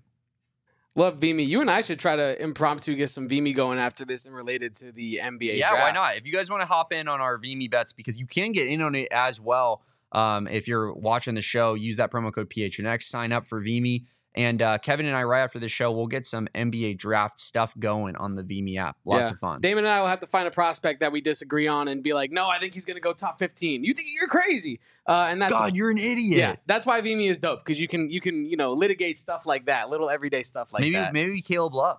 Love Vimy. You and I should try to impromptu get some Vimy going after this and related to the N B A Yeah, draft. why not? If you guys want to hop in on our Vimy bets, because you can get in on it as well. Um, if you're watching the show, use that promo code P H N X, sign up for Vimy. And uh, Kevin and I, right after the show, we'll get some N B A draft stuff going on the Vimy app. Lots Yeah. of fun. Damon and I will have to find a prospect that we disagree on and be like, no, I think he's going to go top fifteen. You think you're crazy. Uh, and that's God, you're an idiot. Yeah, that's why Vimy is dope, because you can, you can, you know, litigate stuff like that, little everyday stuff like maybe, that. Maybe Caleb Love.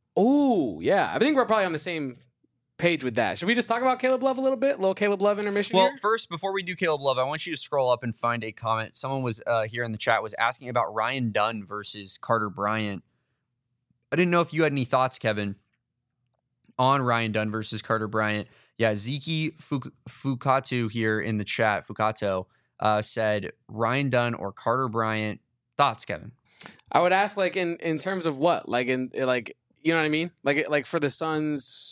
Oh, yeah. I think we're probably on the same page with that. Should we just talk about Caleb Love a little bit? A little Caleb Love intermission Well, here? first, before we do Caleb Love, I want you to scroll up and find a comment. Someone was uh, here in the chat was asking about Ryan Dunn versus Carter Bryant. I didn't know if you had any thoughts, Kevin, on Ryan Dunn versus Carter Bryant. Yeah, Ziki Fuk- Fukatu here in the chat, Fukato, uh, said Ryan Dunn or Carter Bryant. Thoughts, Kevin? I would ask, like, in, in terms of what? Like, in, like, you know what I mean? Like, like for the Suns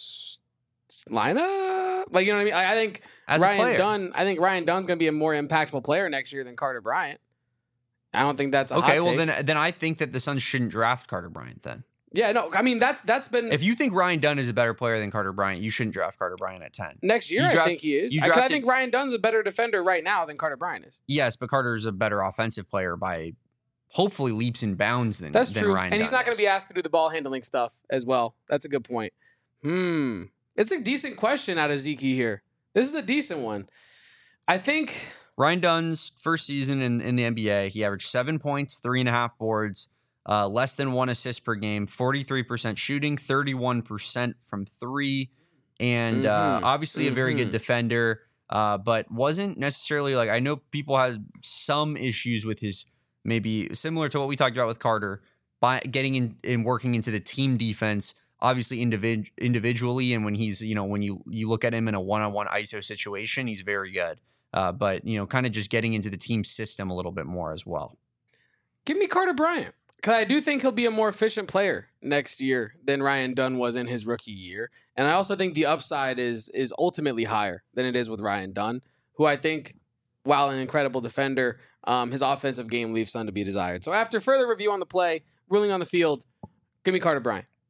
lineup? Like, you know what I mean? I, I think As a Ryan player. Dunn, I think Ryan Dunn's going to be a more impactful player next year than Carter Bryant. I don't think that's a Okay, hot well, take. then then I think that the Suns shouldn't draft Carter Bryant then. Yeah, no, I mean, that's that's been If you think Ryan Dunn is a better player than Carter Bryant, you shouldn't draft Carter Bryant at ten. next year. you I draft- think he is. you I, 'cause I drafted- think Ryan Dunn's a better defender right now than Carter Bryant is. Yes, but Carter's a better offensive player by hopefully leaps and bounds than That's than true, Ryan and he's Dunn not going is. to be asked to do the ball handling stuff as well. That's a good point. Hmm, it's a decent question out of Zeke here. This is a decent one. I think. Ryan Dunn's first season in, in the N B A, he averaged seven points, three and a half boards, uh, less than one assist per game, forty-three percent shooting, thirty-one percent from three, and uh, Mhm, obviously a very good mhm. defender, uh, but wasn't necessarily like, I know people had some issues with his, maybe similar to what we talked about with Carter, by getting in and working into the team defense, obviously individ- individually, and when he's, you know, when you, you look at him in a one-on-one I S O situation, he's very good. Uh, but, you know, kind of just getting into the team system a little bit more as well. Give me Carter Bryant, because I do think he'll be a more efficient player next year than Ryan Dunn was in his rookie year. And I also think the upside is is ultimately higher than it is with Ryan Dunn, who I think, while an incredible defender, um, his offensive game leaves some to be desired. So after further review on the play, ruling on the field, give me Carter Bryant.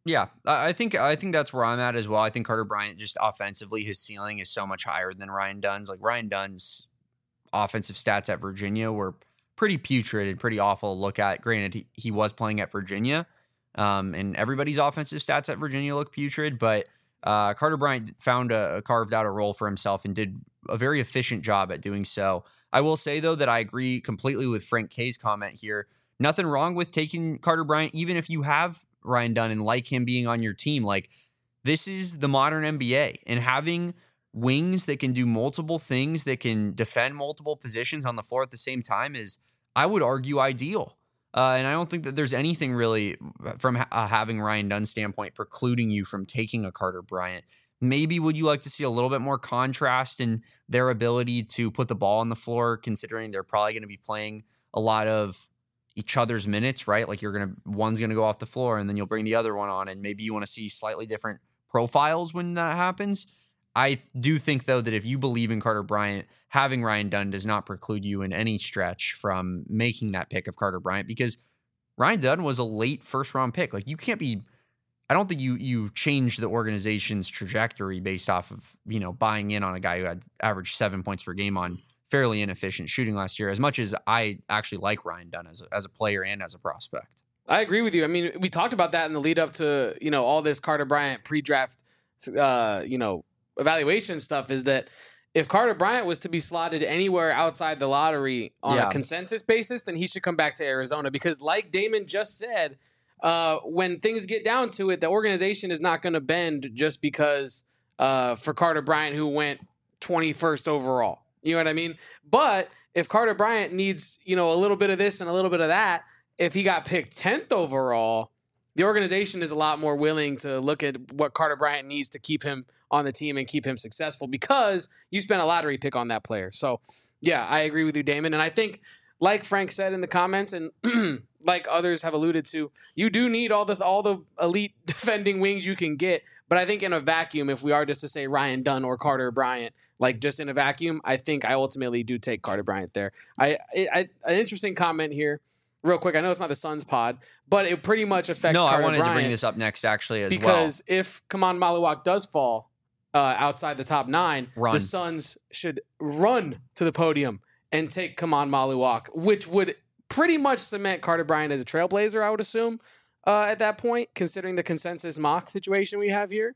Yeah, I I think I think that's where I'm at as well. I think Carter Bryant, just offensively, his ceiling is so much higher than Ryan Dunn's. Like Ryan Dunn's offensive stats at Virginia were pretty putrid and pretty awful to look at. Granted, he, he was playing at Virginia, um, and everybody's offensive stats at Virginia look putrid, but uh, Carter Bryant found a, a carved out a role for himself and did a very efficient job at doing so. I will say, though, that I agree completely with Frank K's comment here. Nothing wrong with taking Carter Bryant, even if you have Ryan Dunn and like him being on your team. Like, this is the modern N B A, and having wings that can do multiple things, that can defend multiple positions on the floor at the same time is, I would argue, ideal. Uh, and I don't think that there's anything really from ha- uh, having Ryan Dunn's standpoint precluding you from taking a Carter Bryant. Maybe would you like to see a little bit more contrast in their ability to put the ball on the floor, considering they're probably going to be playing a lot of each other's minutes, right? Like, you're going to, one's going to go off the floor and then you'll bring the other one on, and maybe you want to see slightly different profiles when that happens. I do think, though, that if you believe in Carter Bryant, having Ryan Dunn does not preclude you in any stretch from making that pick of Carter Bryant, because Ryan Dunn was a late first round pick. Like, you can't be, I don't think you you change the organization's trajectory based off of, you know, buying in on a guy who had averaged seven points per game on fairly inefficient shooting last year, as much as I actually like Ryan Dunn as a, as a player and as a prospect. I agree with you. I mean, we talked about that in the lead up to, you know, all this Carter Bryant pre-draft, uh, you know, evaluation stuff, is that if Carter Bryant was to be slotted anywhere outside the lottery on Yeah. a consensus basis, then he should come back to Arizona, because like Damon just said, uh, when things get down to it, the organization is not going to bend just because uh, for Carter Bryant, who went twenty-first overall. You know what I mean? But if Carter Bryant needs, you know, a little bit of this and a little bit of that, if he got picked tenth overall, the organization is a lot more willing to look at what Carter Bryant needs to keep him on the team and keep him successful, because you spent a lottery pick on that player. So, yeah, I agree with you, Damon. And I think, like Frank said in the comments, and like others have alluded to, you do need all the all the elite defending wings you can get. But I think in a vacuum, if we are just to say Ryan Dunn or Carter Bryant, like just in a vacuum, I think I ultimately do take Carter Bryant there. I, I, I an interesting comment here. Real quick, I know it's not the Suns pod, but it pretty much affects No, Carter I wanted Bryant, to bring this up next, actually, as because well. if Kaman Maluak does fall uh, outside the top nine, Run. the Suns should run to the podium and take Kaman Maluak, which would pretty much cement Carter Bryant as a trailblazer, I would assume, uh, at that point, considering the consensus mock situation we have here.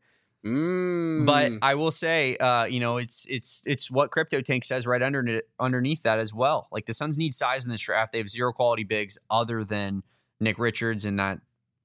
Mm. But I will say, uh, you know, it's it's it's what Crypto Tank says right under underneath that as well. Like, the Suns need size in this draft. They have zero quality bigs other than Nick Richards, and that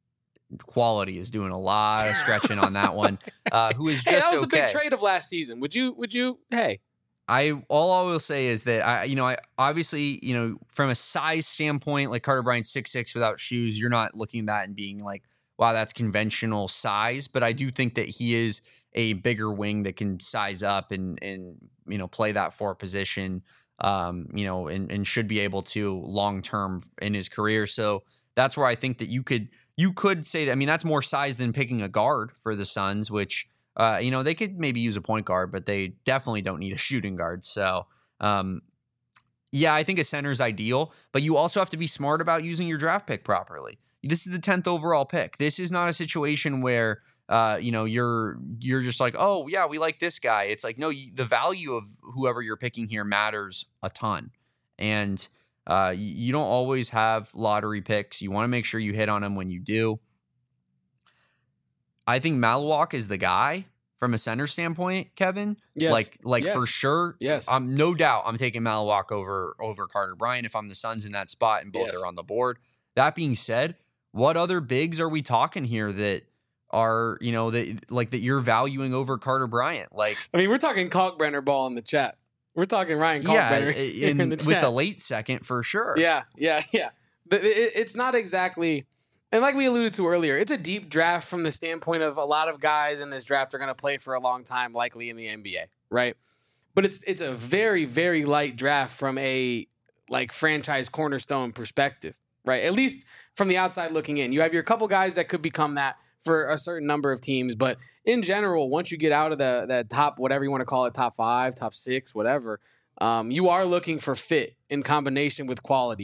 quality is doing a lot of stretching on that one. Uh, who is just hey, that was okay. the big trade of last season. Would you? Would you? Hey, I all I will say is that I, you know, I obviously, you know, from a size standpoint, like Carter Bryant six six without shoes, you're not looking at that and being like, wow, that's conventional size. But I do think that he is a bigger wing that can size up and, and you know, play that four position, um, you know, and, and should be able to long term in his career. So that's where I think that you could you could say that. I mean, that's more size than picking a guard for the Suns, which, uh, you know, they could maybe use a point guard, but they definitely don't need a shooting guard. So, um, yeah, I think a center is ideal, but you also have to be smart about using your draft pick properly. This is the tenth overall pick. This is not a situation where, uh, you know, you're you're just like, oh, yeah, we like this guy. It's like, no, you, the value of whoever you're picking here matters a ton. And uh, you, you don't always have lottery picks. You want to make sure you hit on them when you do. I think Maluak is the guy from a center standpoint, Kevin. Yes. Like, like Yes. for sure. Yes. Um, no doubt I'm taking Maluak over, over Carter Bryant if I'm the Suns in that spot and both Yes. are on the board. That being said, what other bigs are we talking here that are, you know, that like that you're valuing over Carter Bryant? Like, I mean, we're talking Kalkbrenner ball in the chat. We're talking Ryan yeah, Kalkbrenner here in, in the with chat. the late second for sure. Yeah, yeah, yeah. But it, it's not exactly, and like we alluded to earlier, it's a deep draft from the standpoint of a lot of guys in this draft are going to play for a long time, likely in the N B A, right? But it's it's a very, very light draft from a like franchise cornerstone perspective, right? At least from the outside looking in. You have your couple guys that could become that for a certain number of teams, but in general, once you get out of the the top, whatever you want to call it, top five, top six, whatever, um, you are looking for fit in combination with quality.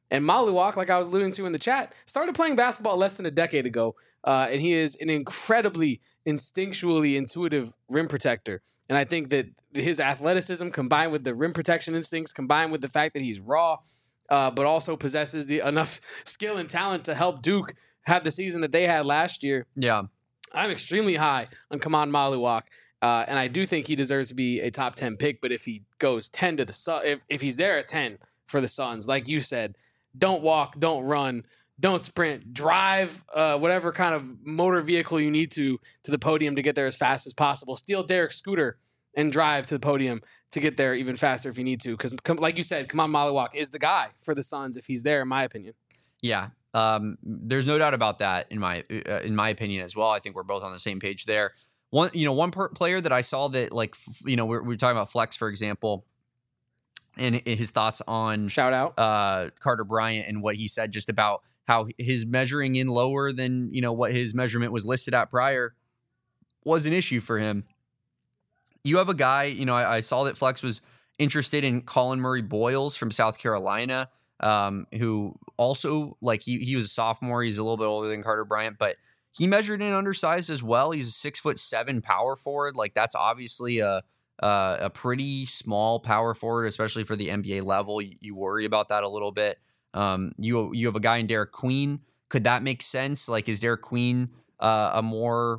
And Maluak, like I was alluding to in the chat, started playing basketball less than a decade ago. Uh, and he is an incredibly instinctually intuitive rim protector. And I think that his athleticism combined with the rim protection instincts, combined with the fact that he's raw, uh, but also possesses the enough skill and talent to help Duke have the season that they had last year. Yeah. I'm extremely high on Kaman Maluak. Uh, and I do think he deserves to be a top ten pick. But if he goes ten to the Sun, if, if he's there at ten for the Suns, like you said, don't walk, don't run, don't sprint, drive uh, whatever kind of motor vehicle you need to to the podium to get there as fast as possible. Steal Derek's scooter and drive to the podium to get there even faster if you need to. Because, like you said, Kaman Maluak is the guy for the Suns if he's there, in my opinion. Yeah, um, there's no doubt about that in my uh, in my opinion as well. I think we're both on the same page there. One, you know, one per player that I saw that, like, f- you know, we're, we're talking about Flex, for example, and his thoughts on Shout out uh, Carter Bryant and what he said just about how his measuring in lower than, you know, what his measurement was listed at prior was an issue for him. You have a guy, you know, I, I saw that Flex was interested in Colin Murray Boyles from South Carolina, um, who also, like, he, he was a sophomore. He's a little bit older than Carter Bryant, but he measured in undersized as well. He's a six foot seven power forward. Like, that's obviously a, Uh, a pretty small power forward, especially for the N B A level. You, you worry about that a little bit. Um, you you have a guy in Derek Queen. Could that make sense? Like, is Derek Queen uh, a more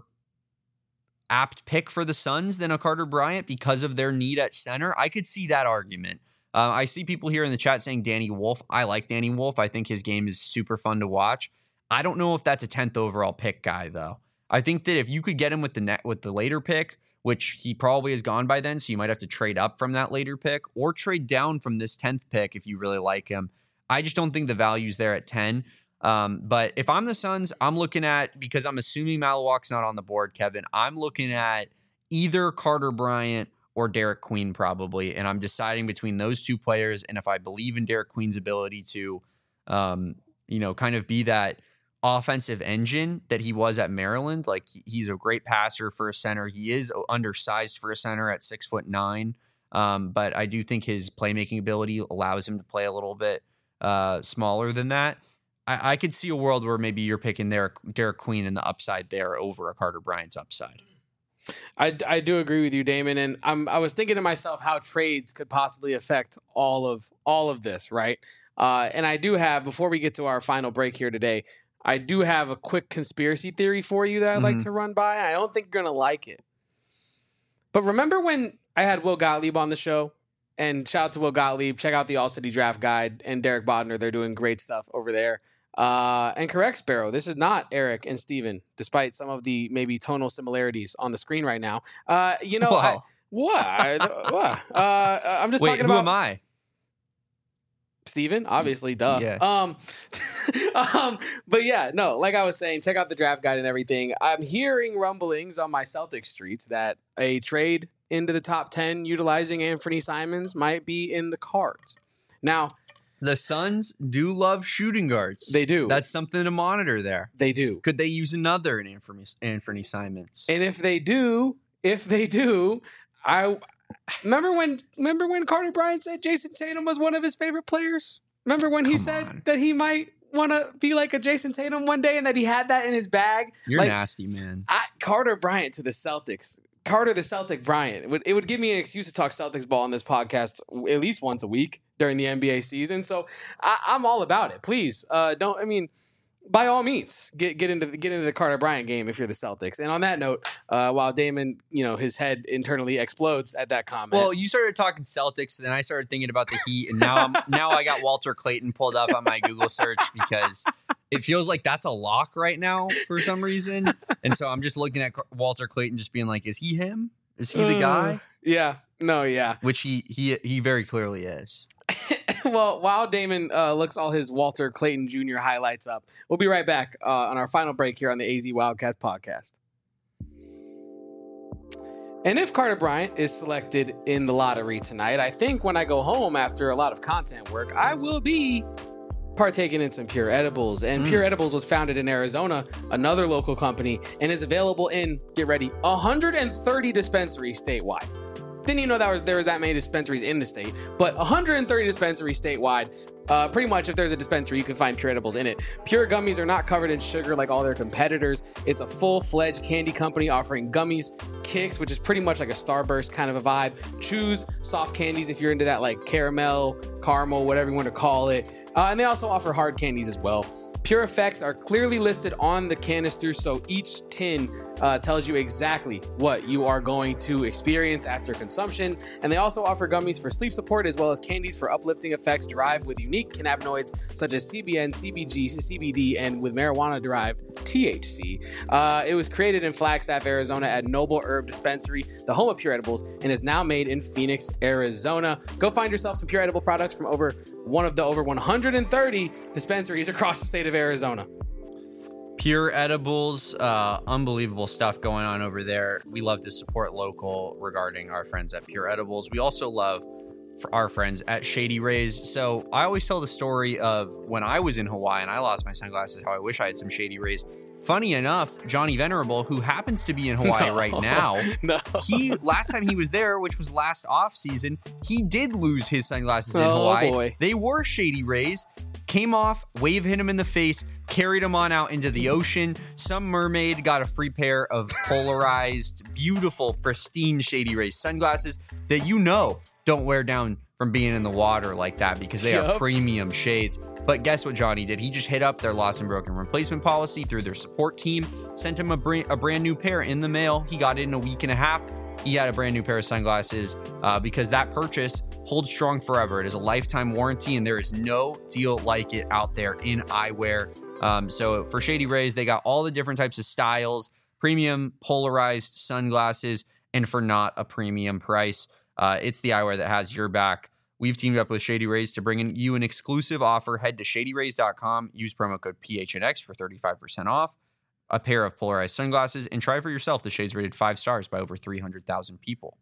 apt pick for the Suns than a Carter Bryant because of their need at center? I could see that argument. Uh, I see people here in the chat saying Danny Wolf. I like Danny Wolf. I think his game is super fun to watch. I don't know if that's a tenth overall pick guy, though. I think that if you could get him with the net with the later pick, which he probably has gone by then, so you might have to trade up from that later pick or trade down from this tenth pick if you really like him. I just don't think the value's there at ten. Um, but if I'm the Suns, I'm looking at, because I'm assuming Maluak's not on the board, Kevin, I'm looking at either Carter Bryant or Derek Queen probably, and I'm deciding between those two players. And if I believe in Derek Queen's ability to, um, you know, kind of be that offensive engine that he was at Maryland. Like, he's a great passer for a center. He is undersized for a center at six foot nine. Um, but I do think his playmaking ability allows him to play a little bit uh, smaller than that. I, I could see a world where maybe you're picking Derek, Derek Queen and the upside there over a Carter Bryant's upside. I, I do agree with you, Damon. And I'm, I was thinking to myself how trades could possibly affect all of, all of this. Right. Uh, and I do have, before we get to our final break here today, I do have a quick conspiracy theory for you that I'd mm-hmm. like to run by. I don't think you're going to like it. But remember when I had Will Gottlieb on the show? And shout out to Will Gottlieb. Check out the All-City Draft Guide and Derek Bodner. They're doing great stuff over there. Uh, and correct, Sparrow, this is not Eric and Steven, despite some of the maybe tonal similarities on the screen right now. Uh, you know, I, what? what? Uh, I'm just Wait, talking who about... am I? Steven, obviously, duh. Yeah. Um, um, but yeah, no, like I was saying, check out the draft guide and everything. I'm hearing rumblings on my Celtics streets that a trade into the top ten utilizing Anthony Simons might be in the cards. Now, the Suns do love shooting guards. They do. That's something to monitor there. They do. Could they use another in Anthony, Anthony Simons? And if they do, if they do, I... Remember when remember when Carter Bryant said Jason Tatum was one of his favorite players? Remember when he Come said on. that he might want to be like a Jason Tatum one day and that he had that in his bag? You're like, nasty, man. I, Carter Bryant to the Celtics. Carter the Celtic Bryant. It would, it would give me an excuse to talk Celtics ball on this podcast at least once a week during the N B A season. So I, I'm all about it. Please, uh, don't, I mean... By all means, get get into the, get into the Carter Bryant game if you're the Celtics. And on that note, uh, while Damon, you know, his head internally explodes at that comment. Well, you started talking Celtics, then I started thinking about the Heat, and now I'm, now I got Walter Clayton pulled up on my Google search because it feels like that's a lock right now for some reason. And so I'm just looking at Walter Clayton, just being like, "Is he him? Is he the guy?" Uh, yeah. No. Yeah. Which he he he very clearly is. Well, while Damon uh, looks all his Walter Clayton Junior highlights up, we'll be right back uh, on our final break here on the A Z Wildcats podcast. And if Carter Bryant is selected in the lottery tonight, I think when I go home after a lot of content work, I will be partaking in some Pure Edibles. And mm. Pure Edibles was founded in Arizona, another local company, and is available in, get ready, one hundred thirty dispensaries statewide. Didn't even know that was, there was that many dispensaries in the state, but one hundred thirty dispensaries statewide. Uh, pretty much, if there's a dispensary, you can find Pure Edibles in it. Pure Gummies are not covered in sugar like all their competitors. It's a full-fledged candy company offering gummies, Kicks, which is pretty much like a Starburst kind of a vibe, Chews, soft candies if you're into that, like caramel, caramel, whatever you want to call it. Uh, and they also offer hard candies as well. Pure Effects are clearly listed on the canister, so each tin uh, tells you exactly what you are going to experience after consumption. And they also offer gummies for sleep support as well as candies for uplifting effects derived with unique cannabinoids such as C B N, C B G, C B D, and with marijuana-derived T H C. Uh, it was created in Flagstaff, Arizona at Noble Herb Dispensary, the home of Pure Edibles, and is now made in Phoenix, Arizona. Go find yourself some Pure Edible products from over one of the over one hundred thirty dispensaries across the state of Arizona. Pure Edibles, uh, unbelievable stuff going on over there. We love to support local regarding our friends at Pure Edibles. We also love for our friends at Shady Rays. So I always tell the story of when I was in Hawaii and I lost my sunglasses, how I wish I had some Shady Rays. Funny enough, Johnny Venerable, who happens to be in Hawaii no, right now, no. he last time he was there, which was last off season, he did lose his sunglasses in oh, Hawaii. Boy. They were Shady Rays. Came off, wave hit him in the face, carried him on out into the ocean. Some mermaid got a free pair of polarized, beautiful, pristine Shady Rays sunglasses that you know don't wear down from being in the water like that because they yep. are premium shades. But guess what Johnny did? He just hit up their lost and broken replacement policy through their support team, sent him a, br- a brand new pair in the mail. He got it in a week and a half. He had a brand new pair of sunglasses uh, because that purchase holds strong forever. It is a lifetime warranty, and there is no deal like it out there in eyewear. Um, so for Shady Rays, they got all the different types of styles, premium polarized sunglasses, and for not a premium price. Uh, it's the eyewear that has your back. We've teamed up with Shady Rays to bring in you an exclusive offer. Head to shady rays dot com, use promo code P H N X for thirty-five percent off a pair of polarized sunglasses, and try for yourself. The shades rated five stars by over three hundred thousand people.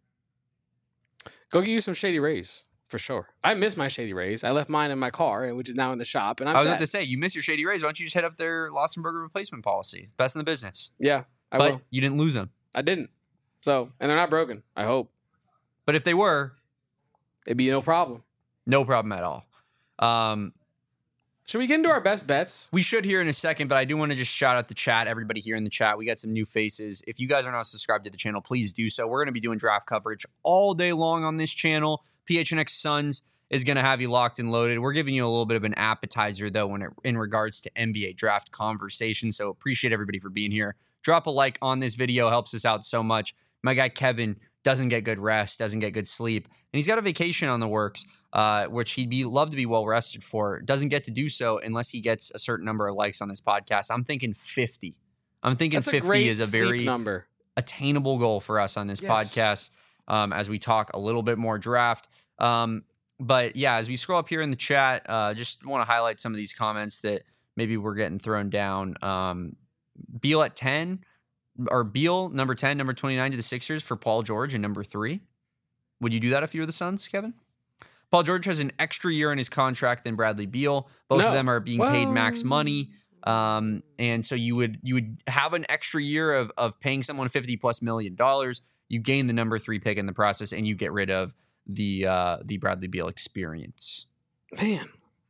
Go get you some Shady Rays for sure. I miss my Shady Rays. I left mine in my car, which is now in the shop, and I'm I was sad. about to say, you miss your Shady Rays. Why don't you just head up their Lost and Burger replacement policy? Best in the business. Yeah, I but will. You didn't lose them. I didn't. So, and they're not broken, I hope. But if they were, it'd be no problem. No problem at all. Um, Should we get into our best bets? We should here in a second, but I do want to just shout out the chat, everybody here in the chat. We got some new faces. If you guys are not subscribed to the channel, please do so. We're going to be doing draft coverage all day long on this channel. P H N X Suns is going to have you locked and loaded. We're giving you a little bit of an appetizer, though, when it, in regards to N B A draft conversation. So appreciate everybody for being here. Drop a like on this video. Helps us out so much. My guy Kevin doesn't get good rest, doesn't get good sleep, and he's got a vacation on the works, uh, which he'd be love to be well rested for. Doesn't get to do so unless he gets a certain number of likes on this podcast. I'm thinking fifty. I'm thinking That's fifty a is a very number. attainable goal for us on this yes. podcast um, as we talk a little bit more draft. Um, but yeah, as we scroll up here in the chat, uh, just want to highlight some of these comments that maybe we're getting thrown down. Um, Beal at ten. Or Beal, number ten, number twenty-nine to the Sixers for Paul George and number three. Would you do that if you were the Suns, Kevin? Paul George has an extra year in his contract than Bradley Beal. Both no. of them are being well, paid max money. Um, and so you would you would have an extra year of of paying someone fifty plus million dollars. You gain the number three pick in the process, and you get rid of the uh, the Bradley Beal experience. Man.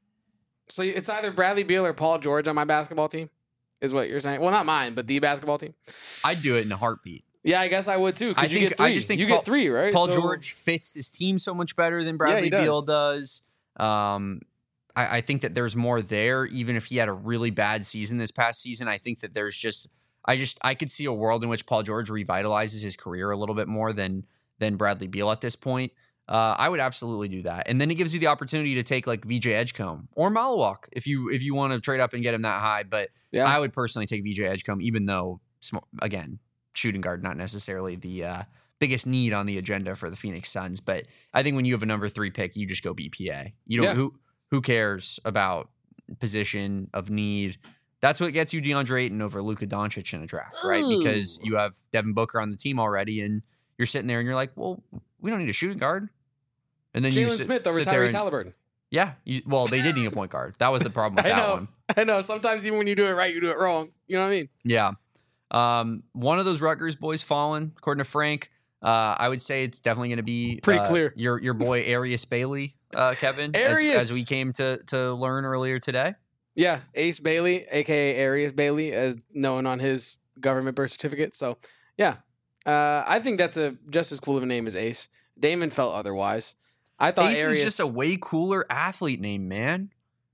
So it's either Bradley Beal or Paul George on my basketball team? Is what you're saying? Well, not mine, but the basketball team. I'd do it in a heartbeat. Yeah, I guess I would too. I you think get three. I just think you Paul, get three, right? Paul so, George fits this team so much better than Bradley yeah, Beal does. Um, I, I think that there's more there. Even if he had a really bad season this past season, I think that there's just I just I could see a world in which Paul George revitalizes his career a little bit more than than Bradley Beal at this point. Uh, I would absolutely do that, and then it gives you the opportunity to take like V J Edgecombe or Malawak if you if you want to trade up and get him that high. But yeah. I would personally take V J Edgecombe, even though again, shooting guard not necessarily the uh, biggest need on the agenda for the Phoenix Suns. But I think when you have a number three pick, you just go B P A. You don't yeah. who who cares about position of need. That's what gets you DeAndre Ayton over Luka Doncic in a draft, right? Ooh. Because you have Devin Booker on the team already, and you're sitting there and you're like, well, we don't need a shooting guard. And then you Jalen sit, Smith over sit there Tyrese and, Halliburton. Yeah, you, well, they did need a point guard. That was the problem with I that know. one. I know. Sometimes even when you do it right, you do it wrong. You know what I mean? Yeah. Um, one of those Rutgers boys fallen, according to Frank. Uh, I would say it's definitely going to be Pretty uh, clear. Your your boy Arias Bailey, uh, Kevin, as, Arias! as we came to to learn earlier today. Yeah, Ace Bailey, aka Arias Bailey, as known on his government birth certificate. So, yeah, uh, I think that's a just as cool of a name as Ace. Damon felt otherwise. I thought Ace Arias is just a way cooler athlete name, man.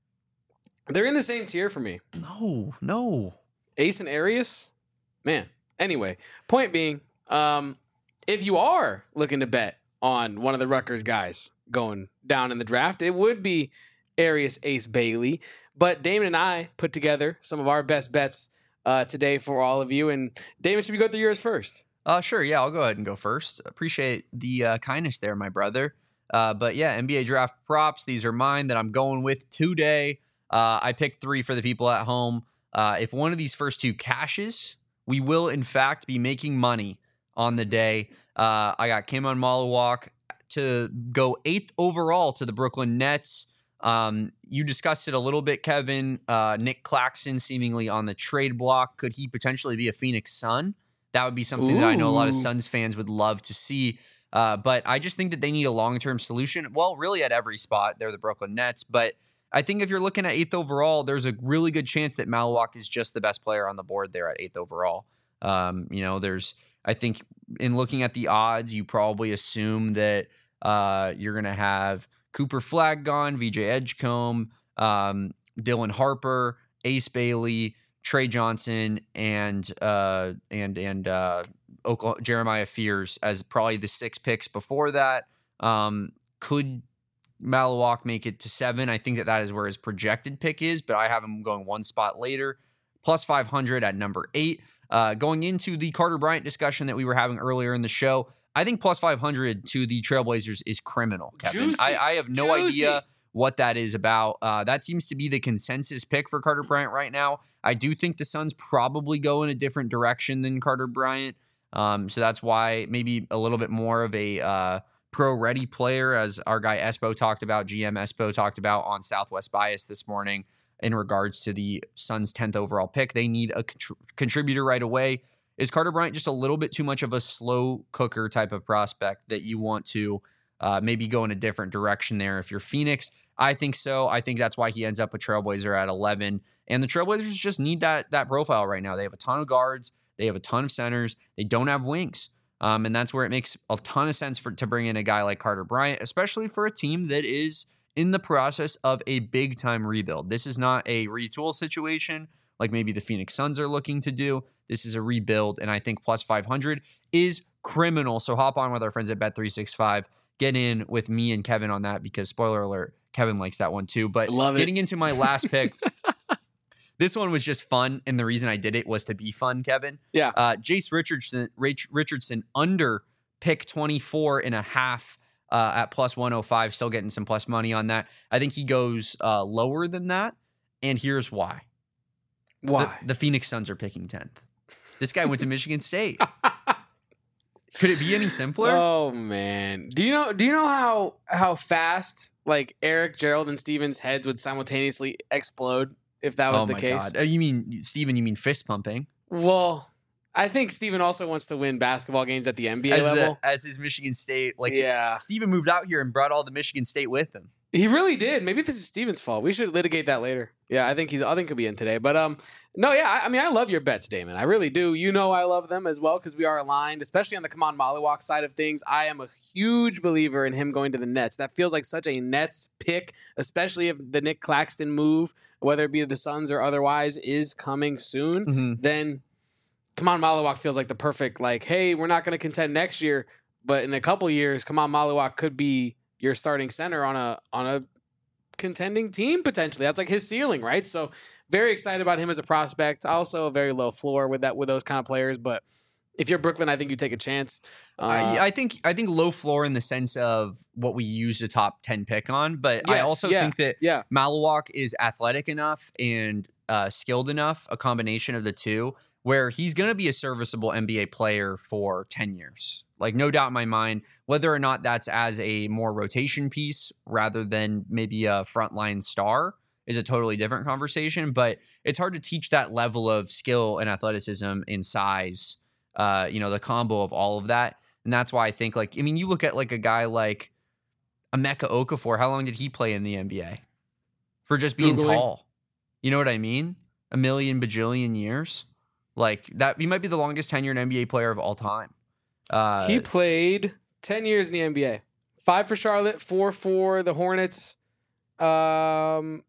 They're in the same tier for me. No, no. Ace and Arias, man. Anyway, point being, um, if you are looking to bet on one of the Rutgers guys going down in the draft, it would be Arias Ace Bailey. But Damon and I put together some of our best bets uh, today for all of you. And Damon, should we go through yours first? Uh, sure. Yeah, I'll go ahead and go first. Appreciate the uh, kindness there, my brother. Uh, but yeah, N B A draft props. These are mine that I'm going with today. Uh, I picked three for the people at home. Uh, if one of these first two cashes, we will in fact be making money on the day. Uh, I got Kim on Maluwalk to go eighth overall to the Brooklyn Nets. Um, you discussed it a little bit, Kevin. Uh, Nick Claxton seemingly on the trade block. Could he potentially be a Phoenix Sun? That would be something Ooh. that I know a lot of Suns fans would love to see. Uh, but I just think that they need a long-term solution. Well, really at every spot. They're the Brooklyn Nets. But I think if you're looking at eighth overall, there's a really good chance that Maluwalk is just the best player on the board there at eighth overall. Um, you know, there's, I think in looking at the odds, you probably assume that uh, you're going to have Cooper Flagg gone, V J Edgecombe, um, Dylan Harper, Ace Bailey, Trey Johnson, and uh, and and uh, Oklahoma, Jeremiah Fears as probably the six picks before that. Um, could Maluwalk make it to seven? I think that that is where his projected pick is, but I have him going one spot later. Plus five hundred at number eight. Uh, going into the Carter Bryant discussion that we were having earlier in the show, I think plus five hundred to the Trailblazers is criminal, Kevin. Juicy. I, I have no Juicy. idea what that is about. Uh, that seems to be the consensus pick for Carter Bryant right now. I do think the Suns probably go in a different direction than Carter Bryant. Um, so that's why maybe a little bit more of a uh, pro-ready player, as our guy Espo talked about, G M Espo talked about on Southwest Bias this morning in regards to the Suns' tenth overall pick. They need a contr- contributor right away. Is Carter Bryant just a little bit too much of a slow cooker type of prospect that you want to uh, maybe go in a different direction there if you're Phoenix? I think so. I think that's why he ends up a Trailblazer at eleven. And the Trailblazers just need that that profile right now. They have a ton of guards. They have a ton of centers. They don't have wings. Um, and that's where it makes a ton of sense for to bring in a guy like Carter Bryant, especially for a team that is in the process of a big-time rebuild. This is not a retool situation like maybe the Phoenix Suns are looking to do. This is a rebuild, and I think plus five hundred is criminal. So hop on with our friends at Bet three sixty-five. Get in with me and Kevin on that because, spoiler alert, Kevin likes that one too. But Love getting it. into my last pick, this one was just fun, and the reason I did it was to be fun, Kevin. Yeah. Uh, Jace Richardson, Rich, Richardson under pick twenty-four and a half uh, at plus one oh five, still getting some plus money on that. I think he goes uh, lower than that, and here's why. Why? The, the Phoenix Suns are picking tenth. This guy went to Michigan State. Could it be any simpler? Oh man. Do you know do you know how how fast like Eric, Gerald, and Steven's heads would simultaneously explode if that was oh the my case? God. Oh, you mean Steven, you mean fist pumping? Well, I think Steven also wants to win basketball games at the N B A As, level. the, as his Michigan State, like yeah. Steven moved out here and brought all the Michigan State with him. He really did. Maybe this is Steven's fault. We should litigate that later. Yeah, I think he's. I think he'll be in today. But um, no, yeah. I, I mean, I love your bets, Damon. I really do. You know, I love them as well because we are aligned, especially on the Kaman Maluwalk side of things. I am a huge believer in him going to the Nets. That feels like such a Nets pick, especially if the Nick Claxton move, whether it be the Suns or otherwise, is coming soon. Mm-hmm. Then Kaman Maluwalk feels like the perfect. Like, hey, we're not going to contend next year, but in a couple years, Kaman Maluwalk could be your starting center on a on a contending team potentially. That's like his ceiling, right? So very excited about him as a prospect. Also a very low floor with that with those kind of players. But if you're Brooklyn, I think you take a chance. Uh, I, I think I think low floor in the sense of what we use a top ten pick on, but I Yes, also yeah, think that yeah. Maluwalk is athletic enough and uh, skilled enough, a combination of the two, where he's going to be a serviceable N B A player for ten years. Like, no doubt in my mind, whether or not that's as a more rotation piece rather than maybe a frontline star is a totally different conversation. But it's hard to teach that level of skill and athleticism and size, uh, you know, the combo of all of that And that's why I think, like, I mean, you look at like a guy like Emeka Okafor. How long did he play in the N B A? For just being Googling. tall. You know what I mean? A million bajillion years. Like that, he might be the longest tenured N B A player of all time. Uh, He played ten years in the N B A. Five for Charlotte, four for the Hornets, um,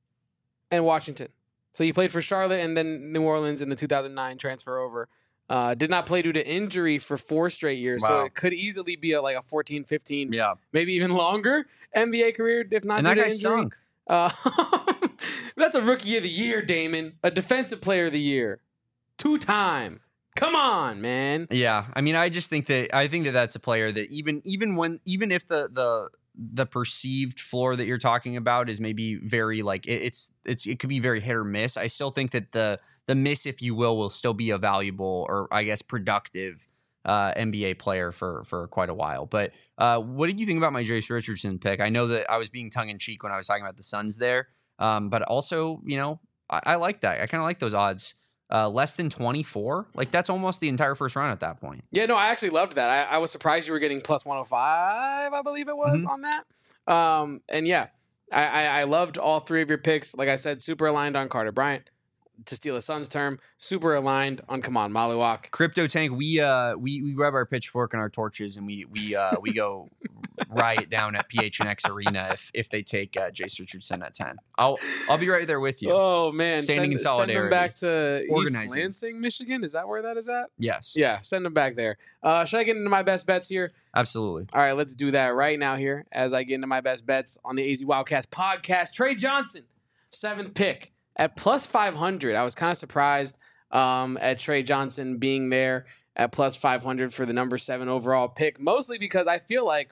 and Washington. So he played for Charlotte and then New Orleans in the two thousand nine transfer over. Uh, did not play due to injury for four straight years. So Wow. it could easily be a, like a fourteen, fifteen, yeah, maybe even longer N B A career, if not and due that to guy injury. stunk. Uh, that's a rookie of the year, Damon. A defensive player of the year. Two-time. Come on, man. Yeah, I mean, I just think that I think that that's a player that even even when even if the the the perceived floor that you're talking about is maybe very like it, it's it's it could be very hit or miss. I still think that the the miss, if you will, will still be a valuable or I guess productive uh, N B A player for for quite a while. But uh, what did you think about my Jace Richardson pick? I know that I was being tongue in cheek when I was talking about the Suns there, um, but also you know I, I like that. I kind of like those odds. Uh, less than twenty-four, like that's almost the entire first round at that point. Yeah, no, I actually loved that. I, I was surprised you were getting plus one oh five, I believe it was, Mhm. on that. Um, and yeah, I, I, I loved all three of your picks. Like I said, super aligned on Carter Bryant, to steal a Suns term, super aligned on, come on, Mollywock. Crypto Tank, we uh we we grab our pitchfork and our torches and we we uh we go riot down at P H N X Arena if if they take uh, Jace Richardson at ten. I'll I'll be right there with you. Oh, man. Standing send, in Send them solidarity. back to East Organizing. Lansing, Michigan. Is that where that is at? Yes, Yeah, send them back there. Uh, should I get into my best bets here? absolutely. All right, let's do that right now here as I get into my best bets on the A Z Wildcast podcast. Trey Johnson, seventh pick at plus five hundred. I was kind of surprised um, at Trey Johnson being there at plus five hundred for the number seven overall pick, mostly because I feel like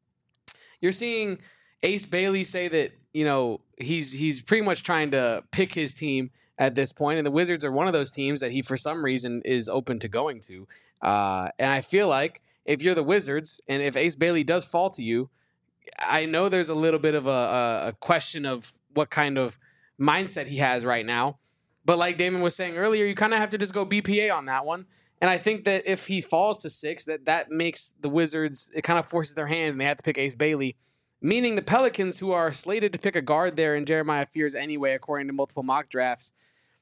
you're seeing Ace Bailey say that, you know, he's he's pretty much trying to pick his team at this point, and the Wizards are one of those teams that he, for some reason, is open to going to. Uh, and I feel like if you're the Wizards and if Ace Bailey does fall to you, I know there's a little bit of a, a, a question of what kind of mindset he has right now. But like Damon was saying earlier, you kind of have to just go B P A on that one. And I think that if he falls to six, that that makes the Wizards, it kind of forces their hand and they have to pick Ace Bailey, meaning the Pelicans, who are slated to pick a guard there in Jeremiah Fears anyway, according to multiple mock drafts.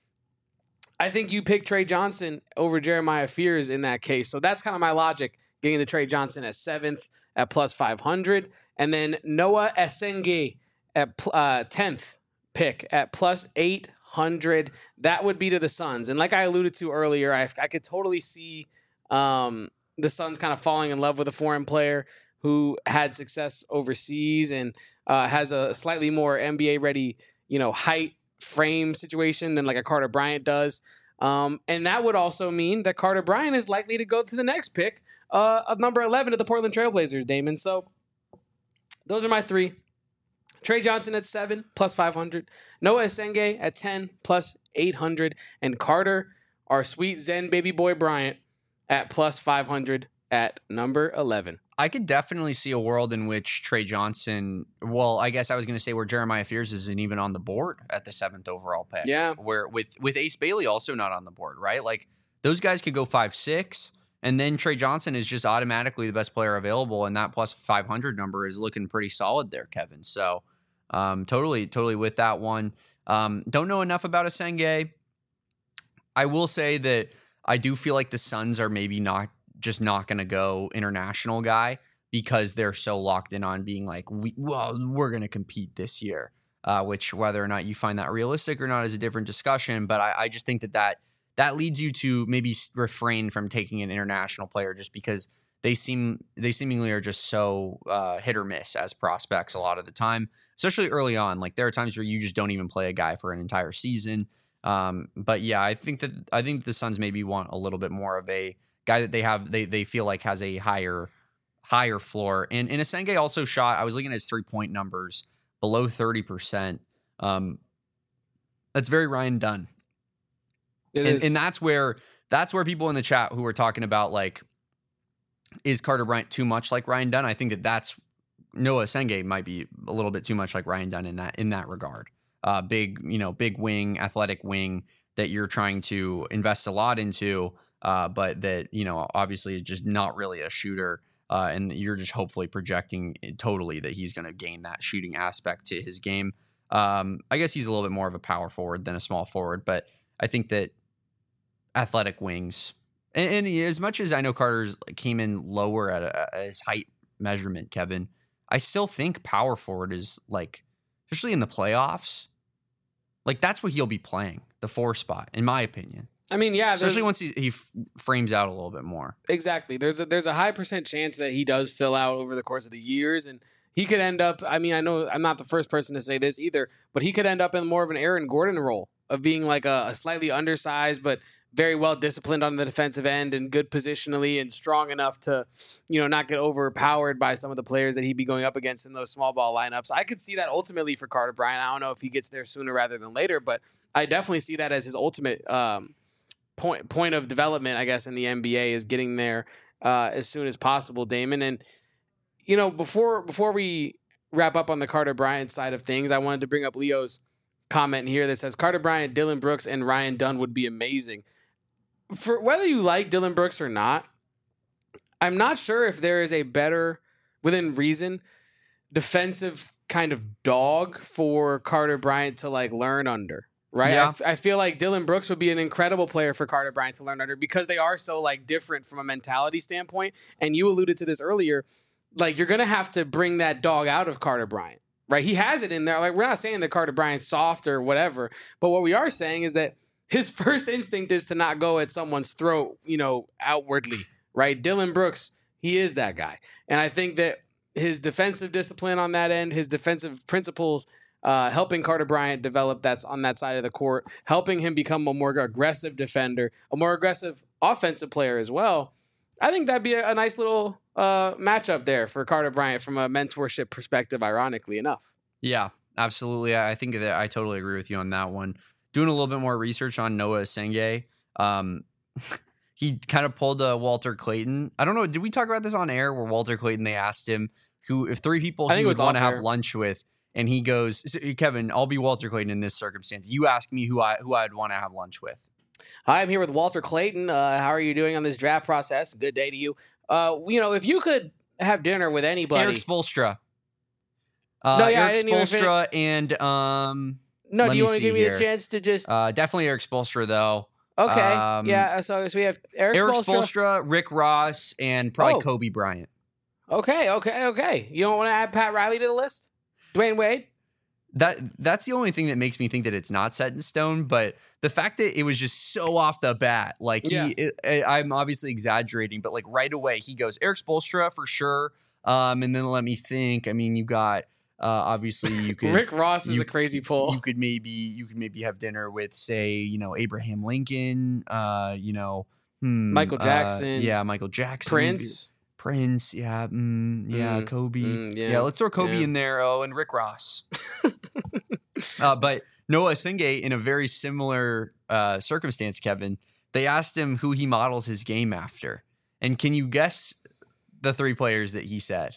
I think you pick Trey Johnson over Jeremiah Fears in that case. So that's kind of my logic, getting the Trey Johnson at seventh at plus five hundred. And then Noah Esenge at uh, tenth pick at plus eight hundred. That would be to the Suns. And like I alluded to earlier, I, I could totally see um, the Suns kind of falling in love with a foreign player who had success overseas and uh, has a slightly more N B A ready, you know, height, frame situation than like a Carter Bryant does. Um, and that would also mean that Carter Bryant is likely to go to the next pick uh, of number eleven of the Portland Trailblazers, Damon. So those are my three. Trey Johnson at seven, plus five hundred. Noah Esenge at ten, plus eight hundred. And Carter, our sweet Zen baby boy Bryant, at plus five hundred at number eleven. I could definitely see a world in which Trey Johnson, well, I guess I was going to say where Jeremiah Fears isn't even on the board at the seventh overall pick. Yeah. Where with with Ace Bailey also not on the board, right? Like those guys could go five six, and then Trey Johnson is just automatically the best player available, and that plus five hundred number is looking pretty solid there, Kevin. So um, totally, totally with that one. Um, don't know enough about Esenge. I will say that I do feel like the Suns are maybe not just not going to go international guy because they're so locked in on being like, we, well, we're going to compete this year, uh, which whether or not you find that realistic or not is a different discussion. But I, I just think that, that that leads you to maybe refrain from taking an international player just because they seem they seemingly are just so uh, hit or miss as prospects a lot of the time, especially early on. Like there are times where you just don't even play a guy for an entire season. Um, but yeah, I think that I think the Suns maybe want a little bit more of a guy that they have they they feel like has a higher higher floor. And and Esenge also shot, I was looking at his three-point numbers, below thirty percent. Um that's very Ryan Dunn. It and, is. and that's where that's where people in the chat who are talking about like, is Carter Bryant too much like Ryan Dunn? I think that that's Noah Esenge might be a little bit too much like Ryan Dunn in that in that regard. Uh big, you know, big wing, athletic wing that you're trying to invest a lot into. uh, but that, you know, obviously is just not really a shooter. Uh, and you're just hopefully projecting totally that he's going to gain that shooting aspect to his game. Um, I guess he's a little bit more of a power forward than a small forward, but I think that athletic wings, and, and as much as I know Carter's came in lower at, a, at his height measurement, Kevin, I still think power forward is like, especially in the playoffs, like that's what he'll be playing, the four spot, in my opinion. I mean, yeah, especially once he, he frames out a little bit more. Exactly. There's a there's a high percent chance that he does fill out over the course of the years, and he could end up. I mean, I know I'm not the first person to say this either, but he could end up in more of an Aaron Gordon role of being like a, a slightly undersized but very well disciplined on the defensive end and good positionally and strong enough to, you know, not get overpowered by some of the players that he'd be going up against in those small ball lineups. I could see that ultimately for Carter Bryant. I don't know if he gets there sooner rather than later, but I definitely see that as his ultimate. Um, Point point of development, I guess, in the N B A is getting there uh, as soon as possible, Damon. And you know, before before we wrap up on the Carter Bryant side of things, I wanted to bring up Leo's comment here that says Carter Bryant, Dillon Brooks, and Ryan Dunn would be amazing. For whether you like Dillon Brooks or not, I'm not sure if there is a better, within reason, defensive kind of dog for Carter Bryant to like learn under. Right. Yeah. I, f- I feel like Dillon Brooks would be an incredible player for Carter Bryant to learn under because they are so like different from a mentality standpoint. And you alluded to this earlier, like you're going to have to bring that dog out of Carter Bryant, right? He has it in there. Like we're not saying that Carter Bryant's soft or whatever, but what we are saying is that his first instinct is to not go at someone's throat, you know, outwardly, right? Dillon Brooks, he is that guy. And I think that his defensive discipline on that end, his defensive principles, Uh, helping Carter Bryant develop that's on that side of the court, helping him become a more aggressive defender, a more aggressive offensive player as well. I think that'd be a, a nice little uh, matchup there for Carter Bryant from a mentorship perspective, ironically enough. Yeah, absolutely. I think that I totally agree with you on that one. Doing a little bit more research on Noah Senge, um, he kind of pulled a Walter Clayton. I don't know. Did we talk about this on air where Walter Clayton, they asked him who, if three people he would want to have lunch with. And he goes, Kevin, I'll be Walter Clayton in this circumstance. You ask me who I who I'd want to have lunch with. Hi, I'm here with Walter Clayton. Uh, how are you doing on this draft process? Good day to you. Uh, you know, if you could have dinner with anybody, Eric Spoelstra. Uh, no, yeah, Eric I didn't Spoelstra and um. No, do you want to give me here. a chance to just? Uh, definitely Eric Spoelstra though. Okay, um, yeah. So, so we have Eric, Eric Spoelstra, Spoelstra, Rick Ross, and probably oh. Kobe Bryant. Okay, okay, okay. You don't want to add Pat Riley to the list? Dwayne Wade. That that's the only thing that makes me think that it's not set in stone. But the fact that it was just so off the bat, like he, yeah. it, I'm obviously exaggerating, but like right away he goes Eric Spoelstra for sure. Um, and then let me think. I mean, you got uh, obviously you could Rick Ross is you, a crazy pull. You could maybe you could maybe have dinner with say you know Abraham Lincoln. Uh, you know hmm, Michael Jackson. Uh, yeah, Michael Jackson. Prince. Prince, yeah, mm, yeah, mm, Kobe, mm, yeah, yeah. Let's throw Kobe yeah. in there. Oh, and Rick Ross. uh, but Noah Senge, in a very similar uh, circumstance, Kevin, they asked him who he models his game after, and can you guess the three players that he said?